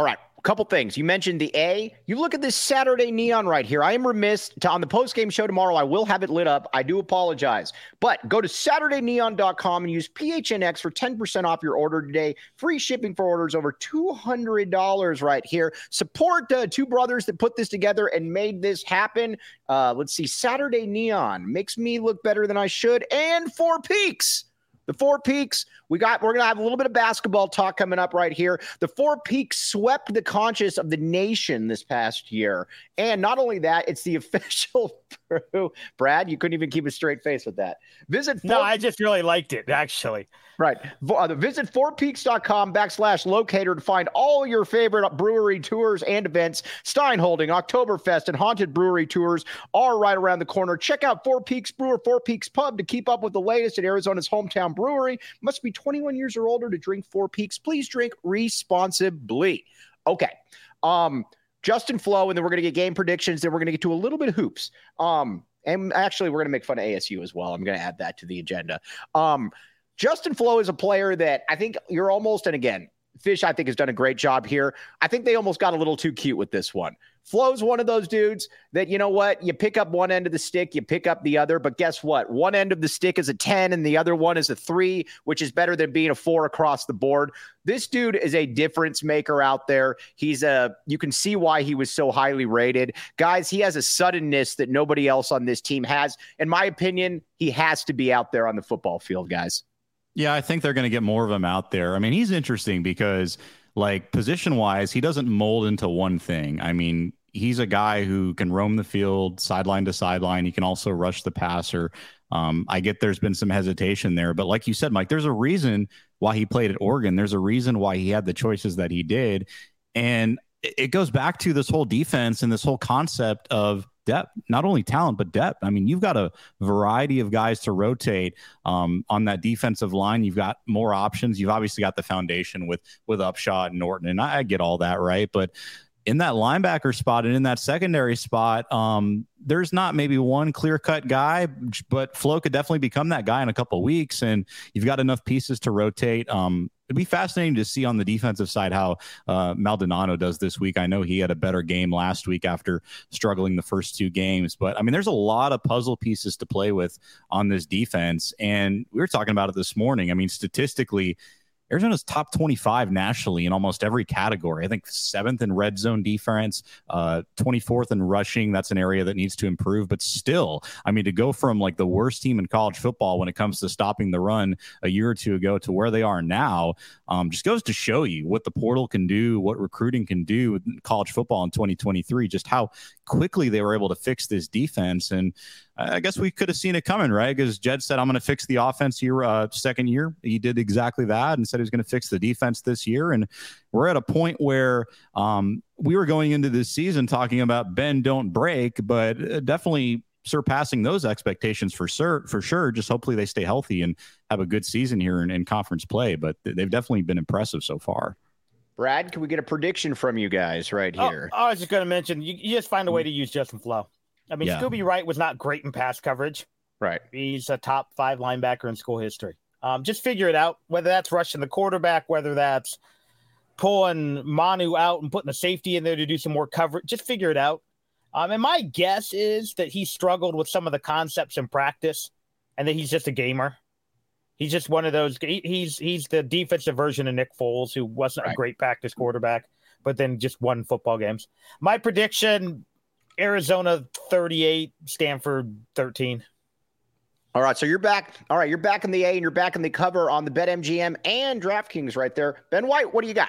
[SPEAKER 1] couple things. You mentioned the A. You look at this Saturday neon right here. I am remiss to, on the post-game show tomorrow. I will have it lit up. I do apologize. But go to Saturday neon dot com and use P H N X for ten percent off your order today. Free shipping for orders over two hundred dollars right here. Support uh, two brothers that put this together and made this happen. Uh, let's see. Saturday Neon makes me look better than I should. And Four Peaks. The Four Peaks, we got, we're going to have a little bit of basketball talk coming up right here. The Four Peaks swept the conscience of the nation this past year. And not only that, it's the official brew. Brad, you couldn't even keep a straight face with that. Visit. Four-
[SPEAKER 2] no, I just really liked it, actually.
[SPEAKER 1] Right. Uh, visit four peaks dot com backslash locator to find all your favorite brewery tours and events. Stein Holding, Oktoberfest, and Haunted Brewery tours are right around the corner. Check out Four Peaks Brewer, Four Peaks Pub to keep up with the latest at Arizona's hometown brewery. Must be twenty-one years or older to drink Four Peaks. Please drink responsibly. Okay. Um, Justin Flo, and then we're going to get game predictions. Then we're going to get to a little bit of hoops. Um, and actually, we're going to make fun of A S U as well. I'm going to add that to the agenda. Um, Justin Flo is a player that I think you're almost, and again, Fish, I think, has done a great job here. I think they almost got a little too cute with this one. Flo's one of those dudes that, you know what, you pick up one end of the stick, you pick up the other, but guess what? One end of the stick is a ten and the other one is a three, which is better than being a four across the board. This dude is a difference maker out there. He's a, you can see why he was so highly rated. Guys, he has a suddenness that nobody else on this team has. In my opinion, he has to be out there on the football field, guys.
[SPEAKER 3] Yeah, I think they're going to get more of him out there. I mean, he's interesting because, like, position-wise, he doesn't mold into one thing. I mean, he's a guy who can roam the field sideline to sideline. He can also rush the passer. Um, I get there's been some hesitation there. But like you said, Mike, there's a reason why he played at Oregon. There's a reason why he had the choices that he did. And it goes back to this whole defense and this whole concept of depth, not only talent, but depth. I mean, you've got a variety of guys to rotate um, on that defensive line. You've got more options. You've obviously got the foundation with, with Upshaw and Norton, and I, I get all that, right? But in that linebacker spot and in that secondary spot, um, there's not maybe one clear-cut guy, but Flo could definitely become that guy in a couple of weeks, and you've got enough pieces to rotate. Um, it'd be fascinating to see on the defensive side how uh, Maldonado does this week. I know he had a better game last week after struggling the first two games, but I mean, there's a lot of puzzle pieces to play with on this defense, and we were talking about it this morning. I mean, statistically, Arizona's top twenty-five nationally in almost every category. I think seventh in red zone defense, uh, twenty-fourth in rushing. That's an area that needs to improve. But still, I mean, to go from like the worst team in college football when it comes to stopping the run a year or two ago to where they are now, um, just goes to show you what the portal can do, what recruiting can do with college football in twenty twenty-three, just how quickly they were able to fix this defense. And I guess we could have seen it coming, right? Because Jed said, I'm going to fix the offense here uh, second year. He did exactly that and said he was going to fix the defense this year. And we're at a point where um, we were going into this season talking about bend, don't break, but definitely surpassing those expectations for sure. For sure. Just hopefully they stay healthy and have a good season here in, in conference play. But they've definitely been impressive so far.
[SPEAKER 1] Brad, can we get a prediction from you guys right here?
[SPEAKER 2] Oh, I was just going to mention, you, you just find a way to use Justin Flo. I mean,
[SPEAKER 3] Yeah.
[SPEAKER 2] Scooby Wright was not great in pass coverage.
[SPEAKER 1] Right.
[SPEAKER 2] He's a top five linebacker in school history. Um, just figure it out, whether that's rushing the quarterback, whether that's pulling Manu out and putting a safety in there to do some more coverage. Just figure it out. Um, and my guess is that he struggled with some of the concepts in practice and that he's just a gamer. He's just one of those. He, he's he's the defensive version of Nick Foles, who wasn't
[SPEAKER 1] Right.
[SPEAKER 2] a great practice quarterback, but then just won football games. My prediction, Arizona thirty-eight, Stanford thirteen.
[SPEAKER 1] All right, so you're back. All right, you're back in the A and you're back in the cover on the BetMGM and DraftKings right there. Ben White, what do you got?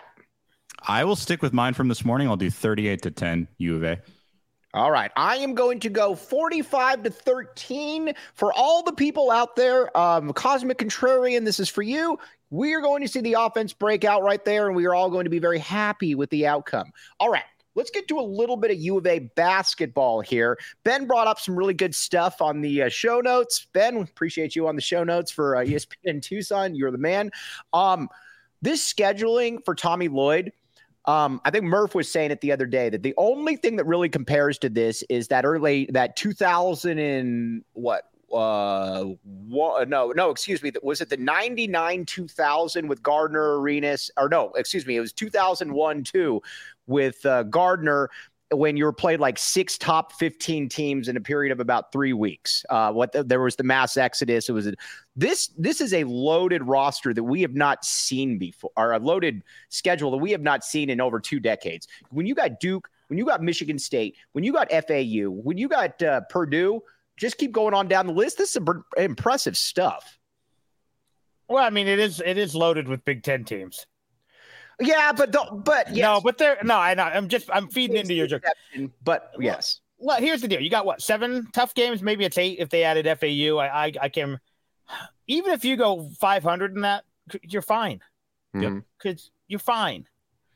[SPEAKER 3] I will stick with mine from this morning. I'll do thirty-eight to ten U of A.
[SPEAKER 1] All right, I am going to go forty-five to thirteen for all the people out there. Um, Cosmic Contrarian, this is for you. We are going to see the offense break out right there, and we are all going to be very happy with the outcome. All right. Let's get to a little bit of U of A basketball here. Ben brought up some really good stuff on the uh, show notes. Ben, appreciate you on the show notes for uh, E S P N Tucson. You're the man. Um, this scheduling for Tommy Lloyd, um, I think Murph was saying it the other day that the only thing that really compares to this is that early, that two thousand and what? Uh, what, no, no, excuse me. Was it the ninety-nine two thousand with Gardner Arenas? Or no, excuse me. It was two thousand one two with uh, Gardner when you were played like six top fifteen teams in a period of about three weeks. Uh, what the, there was the mass exodus. It was a, this. This is a loaded roster that we have not seen before, or a loaded schedule that we have not seen in over two decades. When you got Duke, when you got Michigan State, when you got F A U, when you got uh, Purdue, just keep going on down the list. This is some impressive stuff.
[SPEAKER 2] Well, I mean, it is it is loaded with Big Ten teams.
[SPEAKER 1] Yeah, but the, but yes.
[SPEAKER 2] no, but they're no. I know. I'm just I'm feeding into your joke.
[SPEAKER 1] But yes.
[SPEAKER 2] Well, here's the deal. You got what, seven tough games? Maybe it's eight if they added F A U. I I, I can. Even if you go five hundred in that, you're fine.
[SPEAKER 1] Mm-hmm.
[SPEAKER 2] Because you're fine.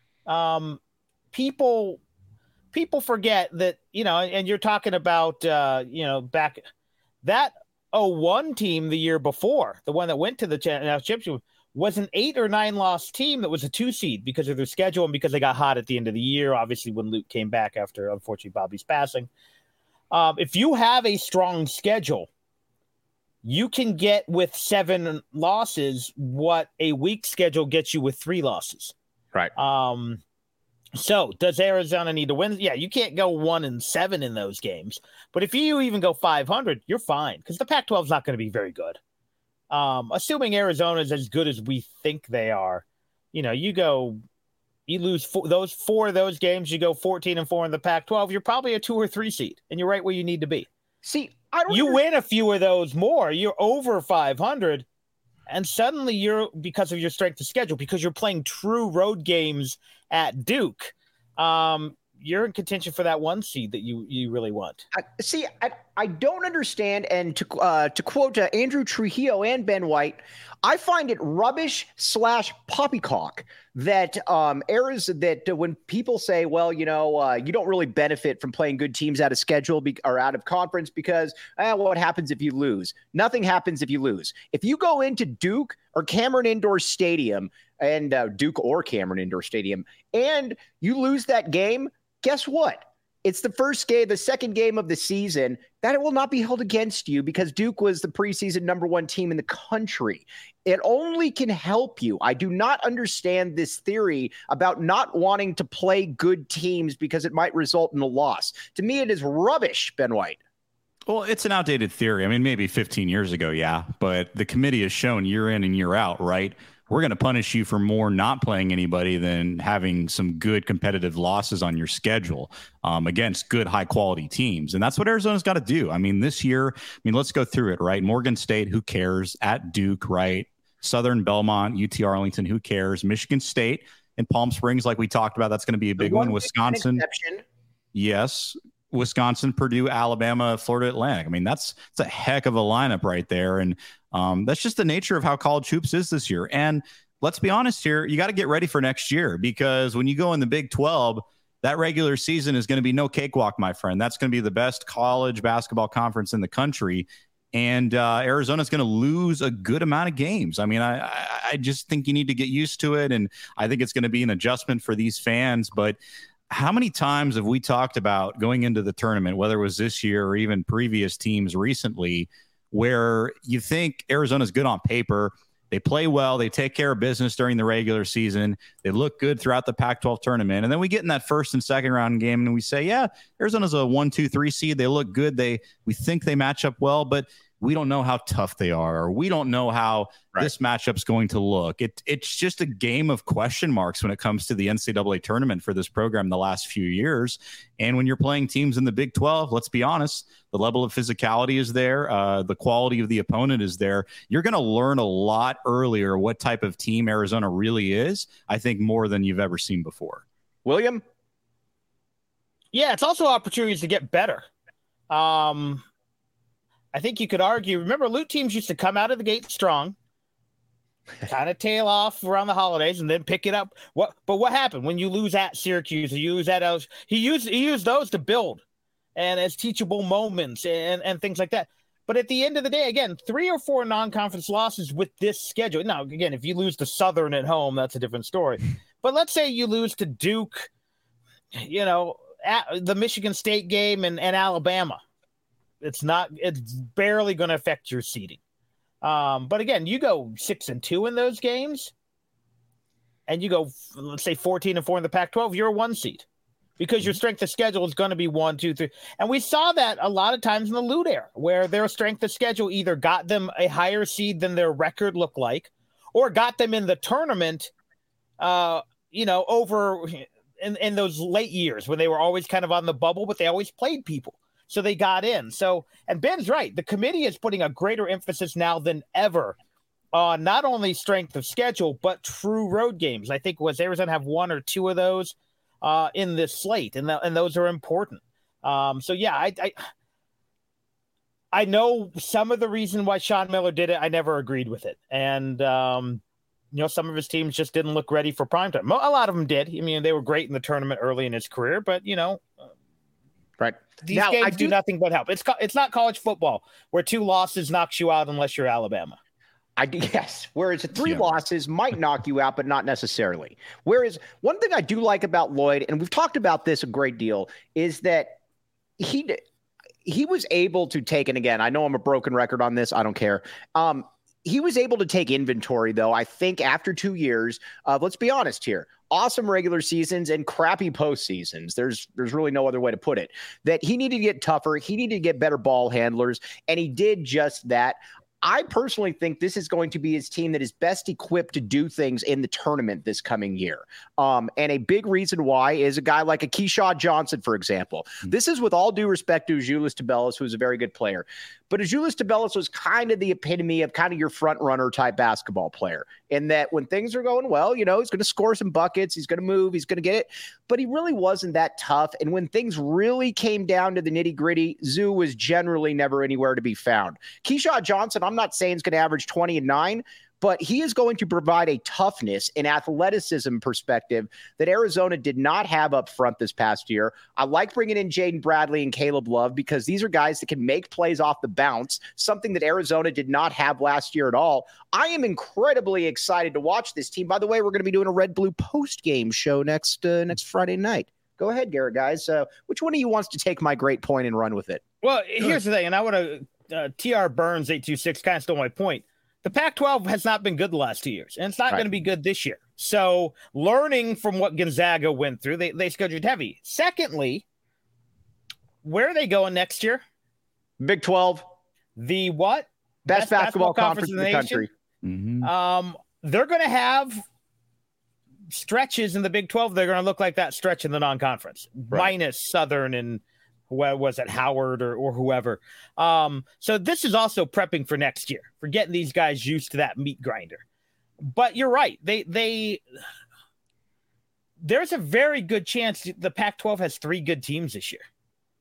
[SPEAKER 2] Um, people people forget that, you know, and you're talking about uh, you know, back that oh one team the year before, the one that went to the championship, was an eight or nine loss team that was a two seed because of their schedule and because they got hot at the end of the year. Obviously, when Luke came back after, unfortunately, Bobby's passing. Um, if you have a strong schedule, you can get with seven losses what a weak schedule gets you with three losses.
[SPEAKER 1] Right.
[SPEAKER 2] Um, so does Arizona need to win? Yeah, you can't go one and seven in those games. But if you even go five hundred, you're fine because the Pac twelve is not going to be very good. Um, assuming Arizona is as good as we think they are, you know, you go, you lose four, those four of those games, you go fourteen and four in the Pac twelve, you're probably a two or three seed, and you're right where you need to be.
[SPEAKER 1] See, I don't
[SPEAKER 2] you
[SPEAKER 1] understand.
[SPEAKER 2] win a few of those more, you're over five hundred, and suddenly you're, because of your strength of schedule, because you're playing true road games at Duke, um, you're in contention for that one seed that you you really want.
[SPEAKER 1] I, see, I, I don't understand. And to uh, to quote uh, Andrew Trujillo and Ben White, I find it rubbish slash poppycock that um Arizona, that uh, when people say, well, you know, uh, you don't really benefit from playing good teams out of schedule be- or out of conference because eh, what happens if you lose? Nothing happens if you lose. If you go into Duke or Cameron Indoor Stadium and uh, Duke or Cameron Indoor Stadium and you lose that game, guess what? It's the first game, the second game of the season, that it will not be held against you because Duke was the preseason number one team in the country. It only can help you. I do not understand this theory about not wanting to play good teams because it might result in a loss. To me, it is rubbish, Ben White.
[SPEAKER 3] Well, it's an outdated theory. I mean, maybe fifteen years ago, yeah, but the committee has shown year in and year out, right? We're going to punish you for more not playing anybody than having some good competitive losses on your schedule um, against good, high quality teams. And that's what Arizona's got to do. I mean, this year, I mean, let's go through it, right? Morgan State, who cares? At Duke, right? Southern Belmont, U T Arlington, who cares? Michigan State and Palm Springs, like we talked about, that's going to be a big one. Wisconsin. Yes. Wisconsin, Purdue, Alabama, Florida Atlantic. I mean, that's, that's a heck of a lineup right there. And um, that's just the nature of how college hoops is this year. And let's be honest here, you got to get ready for next year because when you go in the Big twelve, that regular season is going to be no cakewalk, my friend. That's going to be the best college basketball conference in the country. And uh, Arizona's going to lose a good amount of games. I mean, I, I, I just think you need to get used to it. And I think it's going to be an adjustment for these fans. But how many times have we talked about going into the tournament, whether it was this year or even previous teams recently, where you think Arizona's good on paper, they play well, they take care of business during the regular season, they look good throughout the Pac twelve tournament, and then we get in that first and second round game and we say, yeah, Arizona's a one, two, three seed, they look good, they we think they match up well, but we don't know how tough they are, or we don't know how right. this matchup's going to look. It, it's just a game of question marks when it comes to the N C double A tournament for this program the last few years. And when you're playing teams in the Big twelve, let's be honest, the level of physicality is there. Uh, the quality of the opponent is there. You're going to learn a lot earlier what type of team Arizona really is, I think, more than you've ever seen before.
[SPEAKER 1] William?
[SPEAKER 2] Yeah, it's also opportunities to get better. Um I think you could argue, remember, Loot teams used to come out of the gate strong, kind of tail off around the holidays, and then pick it up. What? But what happened when you lose at Syracuse? You lose at L S U? He used he used those to build, and as teachable moments and and things like that. But at the end of the day, again, three or four non-conference losses with this schedule. Now, again, if you lose to Southern at home, that's a different story. But let's say you lose to Duke, you know, at the Michigan State game and, and Alabama. It's not, it's barely going to affect your seeding. Um, but again, you go six and two in those games, and you go, let's say fourteen and four in the Pac twelve, you're a one seed because your strength of schedule is going to be one, two, three. And we saw that a lot of times in the Lute era, where their strength of schedule either got them a higher seed than their record looked like, or got them in the tournament, uh, you know, over in, in those late years when they were always kind of on the bubble, but they always played people. So they got in. So, and Ben's right. The committee is putting a greater emphasis now than ever on not only strength of schedule, but true road games. I think was Arizona have one or two of those uh, in this slate, and, th- and those are important. Um, so, yeah, I, I I know some of the reason why Sean Miller did it. I never agreed with it. And, um, you know, some of his teams just didn't look ready for primetime. A lot of them did. I mean, they were great in the tournament early in his career, but, you know,
[SPEAKER 1] right.
[SPEAKER 2] These
[SPEAKER 1] now,
[SPEAKER 2] games
[SPEAKER 1] I
[SPEAKER 2] do,
[SPEAKER 1] do
[SPEAKER 2] nothing but help. It's co- it's not college football where two losses knocks you out unless you're Alabama.
[SPEAKER 1] I do, yes. Whereas three
[SPEAKER 3] Yeah.
[SPEAKER 1] losses might knock you out, but not necessarily. Whereas one thing I do like about Lloyd, and we've talked about this a great deal, is that he he was able to take, and again, I know I'm a broken record on this. I don't care. Um, he was able to take inventory, though, I think after two years of, let's be honest here, awesome regular seasons and crappy postseasons. There's there's really no other way to put it. That he needed to get tougher. He needed to get better ball handlers, and he did just that. I personally think this is going to be his team that is best equipped to do things in the tournament this coming year. Um, and a big reason why is a guy like a Keyshawn Johnson, for example. Mm-hmm. This is with all due respect to Azuolas Tubelis, who's a very good player. But Azuolas Tubelis was kind of the epitome of kind of your front runner type basketball player, in that when things are going well, you know, he's going to score some buckets, he's going to move, he's going to get it. But he really wasn't that tough. And when things really came down to the nitty gritty, Zoo was generally never anywhere to be found. Keyshawn Johnson, I'm not saying he's going to average twenty and nine, but he is going to provide a toughness and athleticism perspective that Arizona did not have up front this past year. I like bringing in Jaden Bradley and Caleb Love because these are guys that can make plays off the bounce, something that Arizona did not have last year at all. I am incredibly excited to watch this team. By the way, we're going to be doing a Red Blue post-game show next uh, next Friday night. Go ahead, Garrett, guys. Uh, which one of you wants to take my great point and run with it?
[SPEAKER 2] Well, here's the thing, and I want to uh, T R Burns eight two six kind of stole my point. The Pac twelve has not been good the last two years, and it's not
[SPEAKER 1] Right.
[SPEAKER 2] going to be good this year. So learning from what Gonzaga went through, they, they scheduled heavy. Secondly, where are they going next year?
[SPEAKER 1] Big twelve.
[SPEAKER 2] The what?
[SPEAKER 1] Best, Best basketball, basketball conference, conference in the, the country.
[SPEAKER 3] Mm-hmm.
[SPEAKER 2] Um, they're going to have stretches in the Big twelve. They're going to look like that stretch in the non-conference, right. minus Southern and what was it, Howard or, or whoever. Um, so this is also prepping for next year, for getting these guys used to that meat grinder. But you're right. They, they, there's a very good chance the Pac twelve has three good teams this year.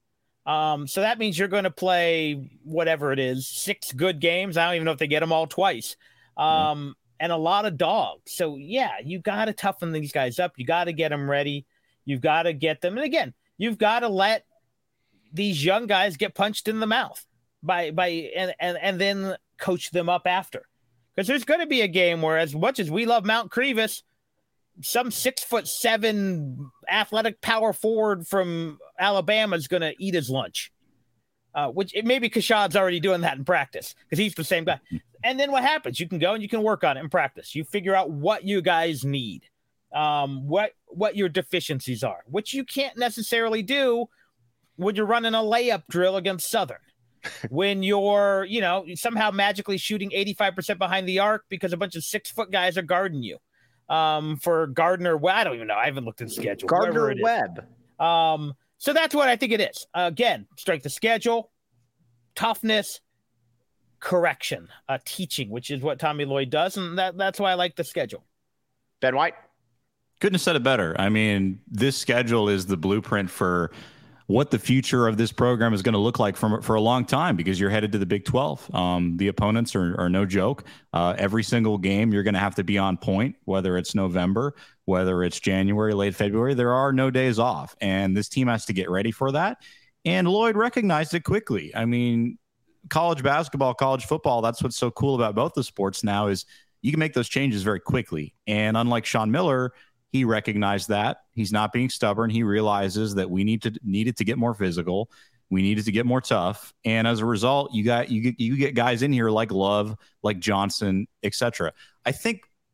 [SPEAKER 2] Um, so that means you're going to play whatever it is, six good games. I don't even know if they get them all twice. Um, mm-hmm. And a lot of dogs. So yeah, you got to toughen these guys up. You got to get them ready. You've got to get them. And again, you've got to let these young guys get punched in the mouth by, by, and, and, and then coach them up after. Because there's going to be a game where, as much as we love Mount Crevis, some six foot seven athletic power forward from Alabama is going to eat his lunch. Uh, which it maybe Kashad's already doing that in practice because he's the same guy. And then what happens? You can go and you can work on it in practice. You figure out what you guys need, um, what, what your deficiencies are, which you can't necessarily do when you're running a layup drill against Southern, when you're, you know, somehow magically shooting eighty-five percent behind the arc because a bunch of six foot guys are guarding you. Um, for Gardner, well, I don't even know. I haven't looked at the schedule.
[SPEAKER 1] Gardner Webb.
[SPEAKER 2] Um, so that's what I think it is. Uh, again, strength of schedule, toughness, correction, uh, teaching, which is what Tommy Lloyd does. And that, that's why I like the schedule.
[SPEAKER 1] Ben White.
[SPEAKER 3] Couldn't have said it better. I mean, this schedule is the blueprint for what the future of this program is going to look like for, for a long time, because you're headed to the Big twelve. Um, the opponents are, are no joke. Uh, every single game, you're going to have to be on point, whether it's November, whether it's January, late February. There are no days off, and this team has to get ready for that. And Lloyd recognized it quickly. I mean, college basketball, college football, that's what's so cool about both the sports now is you can make those changes very quickly. And unlike Sean Miller, he recognized that. He's not being stubborn. He realizes that we need to needed to get more physical. We needed to get more tough. And as a result, you got you get you get guys in here like Love, like Johnson, et cetera. I think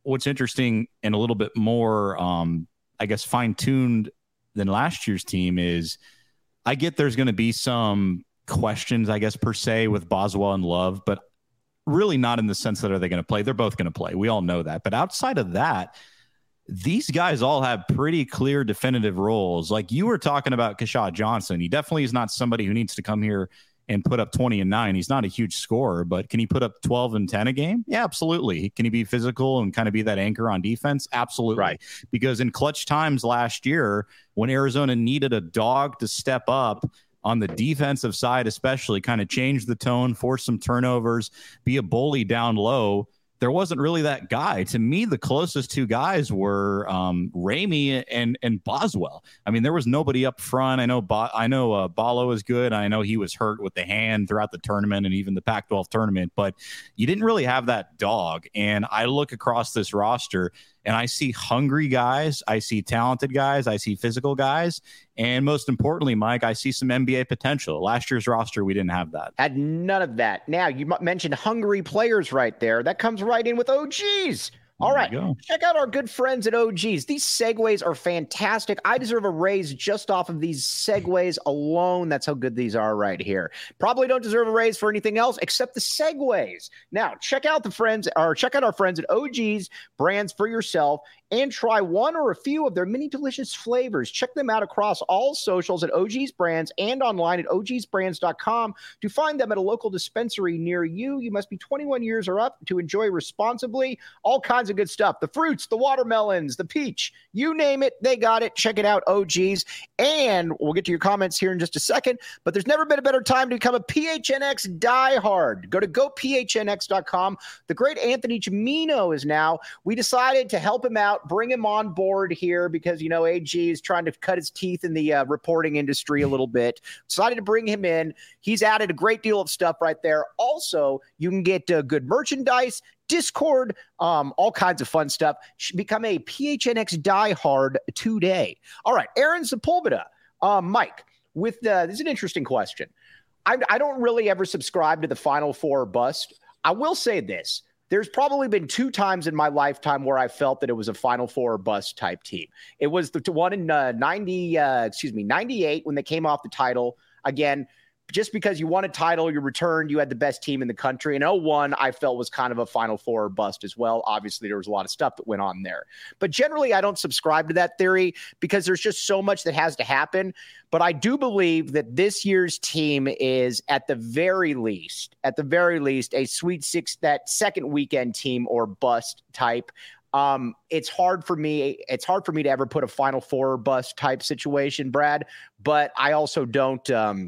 [SPEAKER 3] what's interesting and a little bit more, um, I guess, fine-tuned than last year's team is I get there's going to be some questions, I guess, per se with Boswell and Love, but really not in the sense that are they going to play? They're both going to play. We all know that. But outside of that, these guys all have pretty clear, definitive roles. Like you were talking about Keshad Johnson. He definitely is not somebody who needs to come here and put up twenty and nine. He's not a huge scorer, but can he put up twelve and ten a game? Yeah, absolutely. Can he be physical and kind of be that anchor on defense? Absolutely. Right. Because in clutch times last year, when Arizona needed a dog to step up on the defensive side, especially kind of change the tone, force some turnovers, be a bully down low, there wasn't really that guy. To me, the closest two guys were um, Ramey and and Boswell. I mean, there was nobody up front. I know Bo- I know uh, Balo is good. I know he was hurt with the hand throughout the tournament and even the Pac twelve tournament, but you didn't really have that dog. And I look across this roster and I see hungry guys. I see talented guys. I see physical guys. And most importantly, Mike, I see some N B A potential. Last year's roster, we didn't have that.
[SPEAKER 1] Had none of that. Now, you mentioned hungry players right there. That comes right in with O Gs. All right, check out our good friends at O Gs. These segues are fantastic. I deserve a raise just off of these segues alone. That's how good these are right here. Probably don't deserve a raise for anything else except the segues. Now, check out the friends, or check out our friends at O Gs Brands for yourself and try one or a few of their many delicious flavors. Check them out across all socials at O Gs Brands and online at O Gs brands dot com. To find them at a local dispensary near you, you must be twenty-one years or up to enjoy responsibly. All kinds of good stuff. The fruits, the watermelons, the peach, you name it, they got it. Check it out, O Gs. And we'll get to your comments here in just a second, but there's never been a better time to become a P H N X diehard. Go to go P H N X dot com. The great Anthony Gimino is now. We decided to help him out, bring him on board here because, you know, A G is trying to cut his teeth in the uh, reporting industry a little bit. Decided to bring him in. He's added a great deal of stuff right there. Also, you can get uh, good merchandise, Discord, um, all kinds of fun stuff. Become a P H N X diehard today. All right, Aaron Sepulveda. Uh, Mike, with the, this is an interesting question. I, I don't really ever subscribe to the Final Four bust. I will say this. There's probably been two times in my lifetime where I felt that it was a Final Four bust type team. It was the one in uh, ninety, uh, excuse me, ninety-eight when they came off the title. Again, just because you won a title, you returned, you had the best team in the country. And oh one, I felt was kind of a Final Four bust as well. Obviously, there was a lot of stuff that went on there. But generally, I don't subscribe to that theory because there's just so much that has to happen. But I do believe that this year's team is, at the very least, at the very least, a Sweet Six, that second weekend team or bust type. Um, it's hard for me. It's hard for me to ever put a Final Four bust type situation, Brad. But I also don't. Um,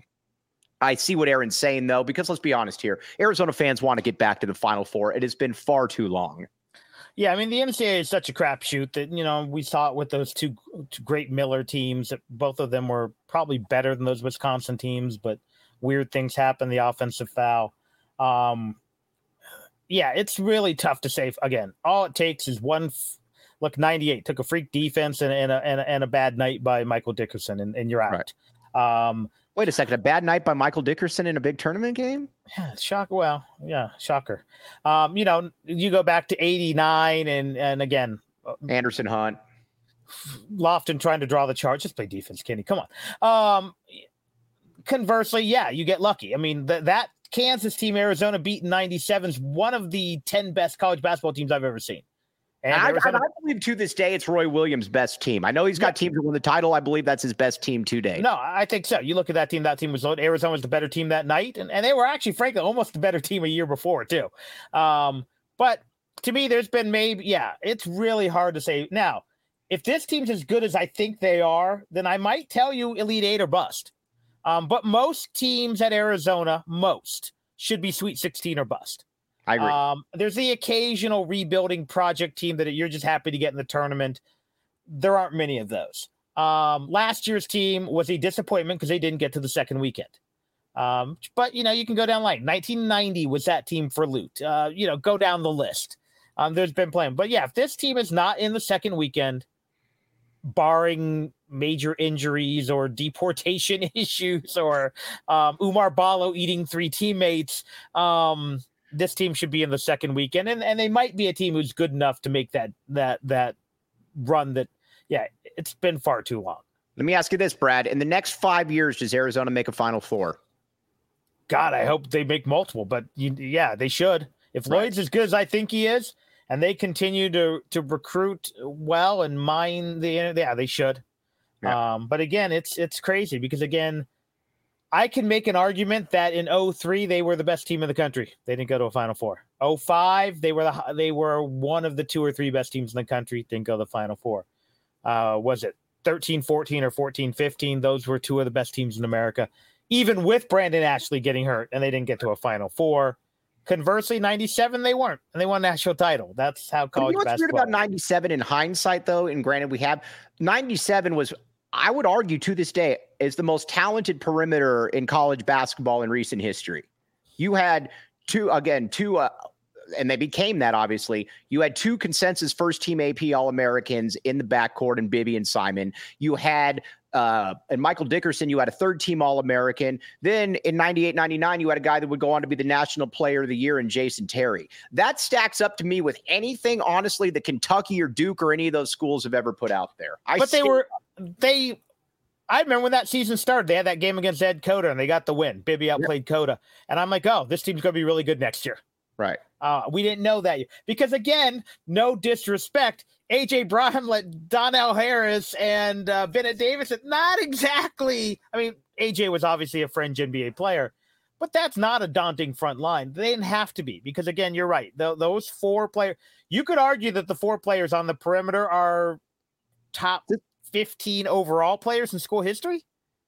[SPEAKER 1] I see what Aaron's saying, though, because let's be honest here. Arizona fans want to get back to the Final Four. It has been far too long.
[SPEAKER 2] Yeah, I mean, the N C double A is such a crapshoot that, you know, we saw it with those two, two great Miller teams. Both of them were probably better than those Wisconsin teams, but weird things happen, the offensive foul. Um, yeah, it's really tough to say. Again, all it takes is one f- – look, ninety-eight took a freak defense and, and, a, and, a, and a bad night by Michael Dickerson, and, and you're out. Right. Um
[SPEAKER 1] Wait a second. A bad night by Michael Dickerson in a big tournament game?
[SPEAKER 2] Yeah, shock. Well, yeah, shocker. Um, you know, you go back to eighty-nine and, and again,
[SPEAKER 1] Anderson Hunt.
[SPEAKER 2] Lofton trying to draw the chart. Just play defense, Kenny. Come on. Um, conversely, yeah, you get lucky. I mean, th- that Kansas team Arizona beat in ninety-seven is one of the ten best college basketball teams I've ever seen.
[SPEAKER 1] And I, I, I believe to this day it's Roy Williams' best team. I know he's got yeah. teams that won the title. I believe that's his best team to date.
[SPEAKER 2] No, I think so. You look at that team. That team was Arizona was the better team that night, and, and they were actually, frankly, almost the better team a year before too. Um, but to me, there's been maybe yeah, it's really hard to say. Now, if this team's as good as I think they are, then I might tell you Elite Eight or bust. Um, but most teams at Arizona, most should be Sweet sixteen or bust.
[SPEAKER 1] I agree.
[SPEAKER 2] Um, there's the occasional rebuilding project team that you're just happy to get in the tournament. There aren't many of those. Um, last year's team was a disappointment because they didn't get to the second weekend. Um, but, you know, you can go down like nineteen ninety was that team for Loot. Uh, you know, go down the list. Um, there's been playing. But, yeah, if this team is not in the second weekend, barring major injuries or deportation issues or um, Umar Balo eating three teammates, um, this team should be in the second weekend, and, and they might be a team who's good enough to make that that that run that, yeah, it's been far too long.
[SPEAKER 1] Let me ask you this, Brad. In the next five years, does Arizona make a Final Four?
[SPEAKER 2] God, I hope they make multiple, but you, yeah, they should. If
[SPEAKER 1] Right.
[SPEAKER 2] Lloyd's as good as I think he is, and they continue to to recruit well and mine the, yeah, they should.
[SPEAKER 1] Yeah.
[SPEAKER 2] Um, but again, it's it's crazy because, again, I can make an argument that in oh three they were the best team in the country. They didn't go to a Final Four. oh five they were the they were one of the two or three best teams in the country. Didn't go to the Final Four. Uh, was it thirteen fourteen or fourteen fifteen? Those were two of the best teams in America, even with Brandon Ashley getting hurt, and they didn't get to a Final Four. Conversely, ninety-seven they weren't, and they won a national title. That's how
[SPEAKER 1] But you
[SPEAKER 2] college
[SPEAKER 1] know what's weird
[SPEAKER 2] basketball.
[SPEAKER 1] about ninety-seven in hindsight, though, and granted we have, ninety-seven was, I would argue to this day, is the most talented perimeter in college basketball in recent history. You had two, again, two, uh, and they became that, obviously. You had two consensus first-team A P All-Americans in the backcourt in Bibby and Simon. You had, uh, and Michael Dickerson, you had a third-team All-American. Then in ninety-eight ninety-nine, you had a guy that would go on to be the National Player of the Year in Jason Terry. That stacks up to me with anything, honestly, that Kentucky or Duke or any of those schools have ever put out there. I
[SPEAKER 2] But they
[SPEAKER 1] still-
[SPEAKER 2] were they. I remember when that season started, they had that game against Ed Cota, and they got the win. Bibby outplayed Cota, and I'm like, oh, this team's going to be really good next year.
[SPEAKER 1] Right.
[SPEAKER 2] Uh, we didn't know that because, again, no disrespect, A J Brown let Donnell Harris and uh, Bennett Davis, not exactly. I mean, A J was obviously a fringe N B A player, but that's not a daunting front line. They didn't have to be because, again, you're right. Th- those four players, you could argue that the four players on the perimeter are top fifteen overall players in school history.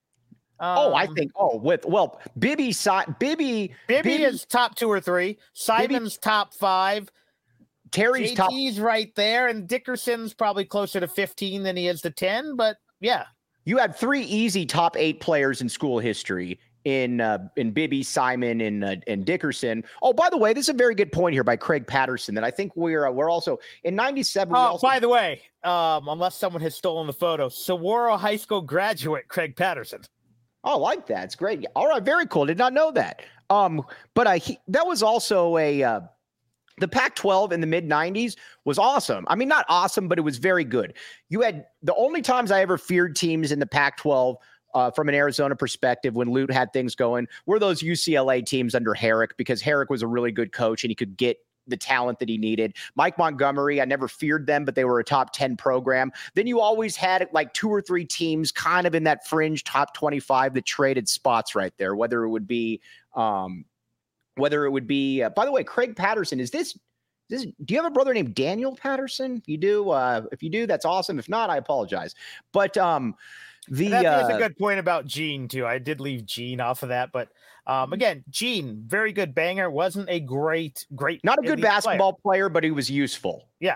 [SPEAKER 1] Oh, I
[SPEAKER 2] Um,
[SPEAKER 1] think. Oh, with well, Bibby, Si- Bibby,
[SPEAKER 2] Bibby is top two or three. Simon's top five.
[SPEAKER 1] Terry's top.
[SPEAKER 2] J T's right there, and Dickerson's probably closer to fifteen than he is to ten. But yeah,
[SPEAKER 1] You had three easy top eight players in school history in uh, in Bibby, Simon, and uh, and Dickerson. Oh, by the way, this is a very good point here by Craig Patterson that I think we're uh, we're also in ninety-seven. we
[SPEAKER 2] oh,
[SPEAKER 1] also,
[SPEAKER 2] by the way, um, unless someone has stolen the photo, Saguaro High School graduate Craig Patterson.
[SPEAKER 1] Oh, I like that. It's great. All right, very cool. Did not know that. Um, but I he, that was also a uh, the Pac twelve in the mid nineties was awesome. I mean, not awesome, but it was very good. You had the only times I ever feared teams in the Pac twelve uh, from an Arizona perspective when Lute had things going were those U C L A teams under Herrick, because Herrick was a really good coach and he could get the talent that he needed. Mike Montgomery, I never feared them, but they were a top ten program. Then you always had like two or three teams kind of in that fringe top twenty-five that traded spots right there, whether it would be, um, whether it would be, uh, by the way, Craig Patterson, is this, this, do you have a brother named Daniel Patterson? You do? Uh, if you do, that's awesome. If not, I apologize. But, um, the,
[SPEAKER 2] And that
[SPEAKER 1] uh,
[SPEAKER 2] is a good point about Gene too. I did leave Gene off of that, but um, again, Gene, very good banger. Wasn't a great, great,
[SPEAKER 1] not a good
[SPEAKER 2] elite
[SPEAKER 1] basketball player. player, but he was useful.
[SPEAKER 2] Yeah.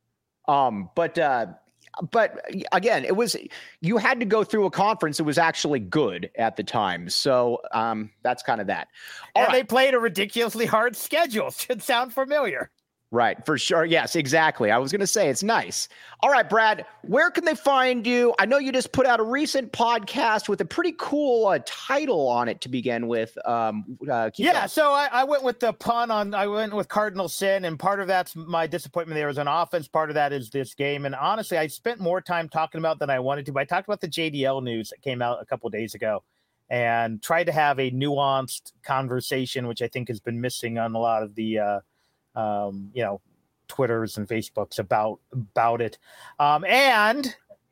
[SPEAKER 1] Um, but, uh, but again, it was, you had to go through a conference that was actually good at the time. So, um, that's kind of that. All
[SPEAKER 2] And
[SPEAKER 1] right.
[SPEAKER 2] they played a ridiculously hard schedule. Should sound familiar.
[SPEAKER 1] Right, for sure. Yes, exactly. I was going to say it's nice. All right, Brad, where can they find you? I know you just put out a recent podcast with a pretty cool uh, title on it to begin with. Um, uh, keep
[SPEAKER 2] Yeah,
[SPEAKER 1] going.
[SPEAKER 2] so I, I went with the pun on, I went with Cardinal Sin, and part of that's my disappointment there was an offense. Part of that is this game. And honestly, I spent more time talking about than I wanted to. But I talked about the J D L news that came out a couple days ago and tried to have a nuanced conversation, which I think has been missing on a lot of the uh, um, you know, Twitters and Facebooks about about it. Um, and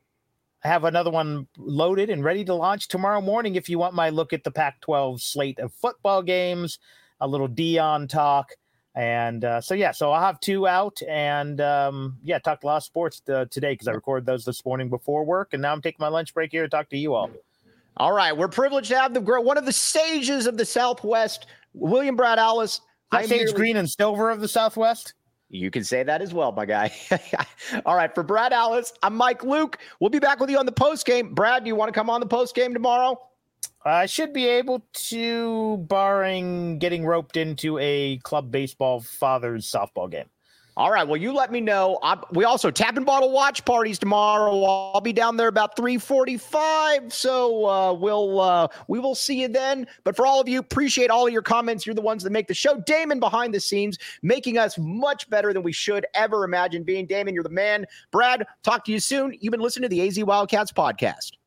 [SPEAKER 2] I have another one loaded and ready to launch tomorrow morning if you want my look at the Pac twelve slate of football games, a little Dion talk. And uh, so, yeah, so I'll have two out. And, um, yeah, talked a lot of sports uh, today because I recorded those this morning before work. And now I'm taking my lunch break here to talk to you all.
[SPEAKER 1] All right, we're privileged to have the one of the sages of the Southwest, William Brad Allis.
[SPEAKER 2] I'm Sage Green and Silver of the Southwest.
[SPEAKER 1] You can say that as well, my guy. All right, for Brad Allis, I'm Mike Luke. We'll be back with you on the post game. Brad, do you want to come on the post game tomorrow?
[SPEAKER 2] I should be able to, barring getting roped into a club baseball father's softball game.
[SPEAKER 1] All right. Well, you let me know. I, we also tap and bottle watch parties tomorrow. I'll be down there about three forty-five. So uh, we'll uh, we will see you then. But for all of you, appreciate all of your comments. You're the ones that make the show. Damon behind the scenes, making us much better than we should ever imagine being. Damon, you're the man. Brad, talk to you soon. You've been listening to the A Z Wildcats podcast.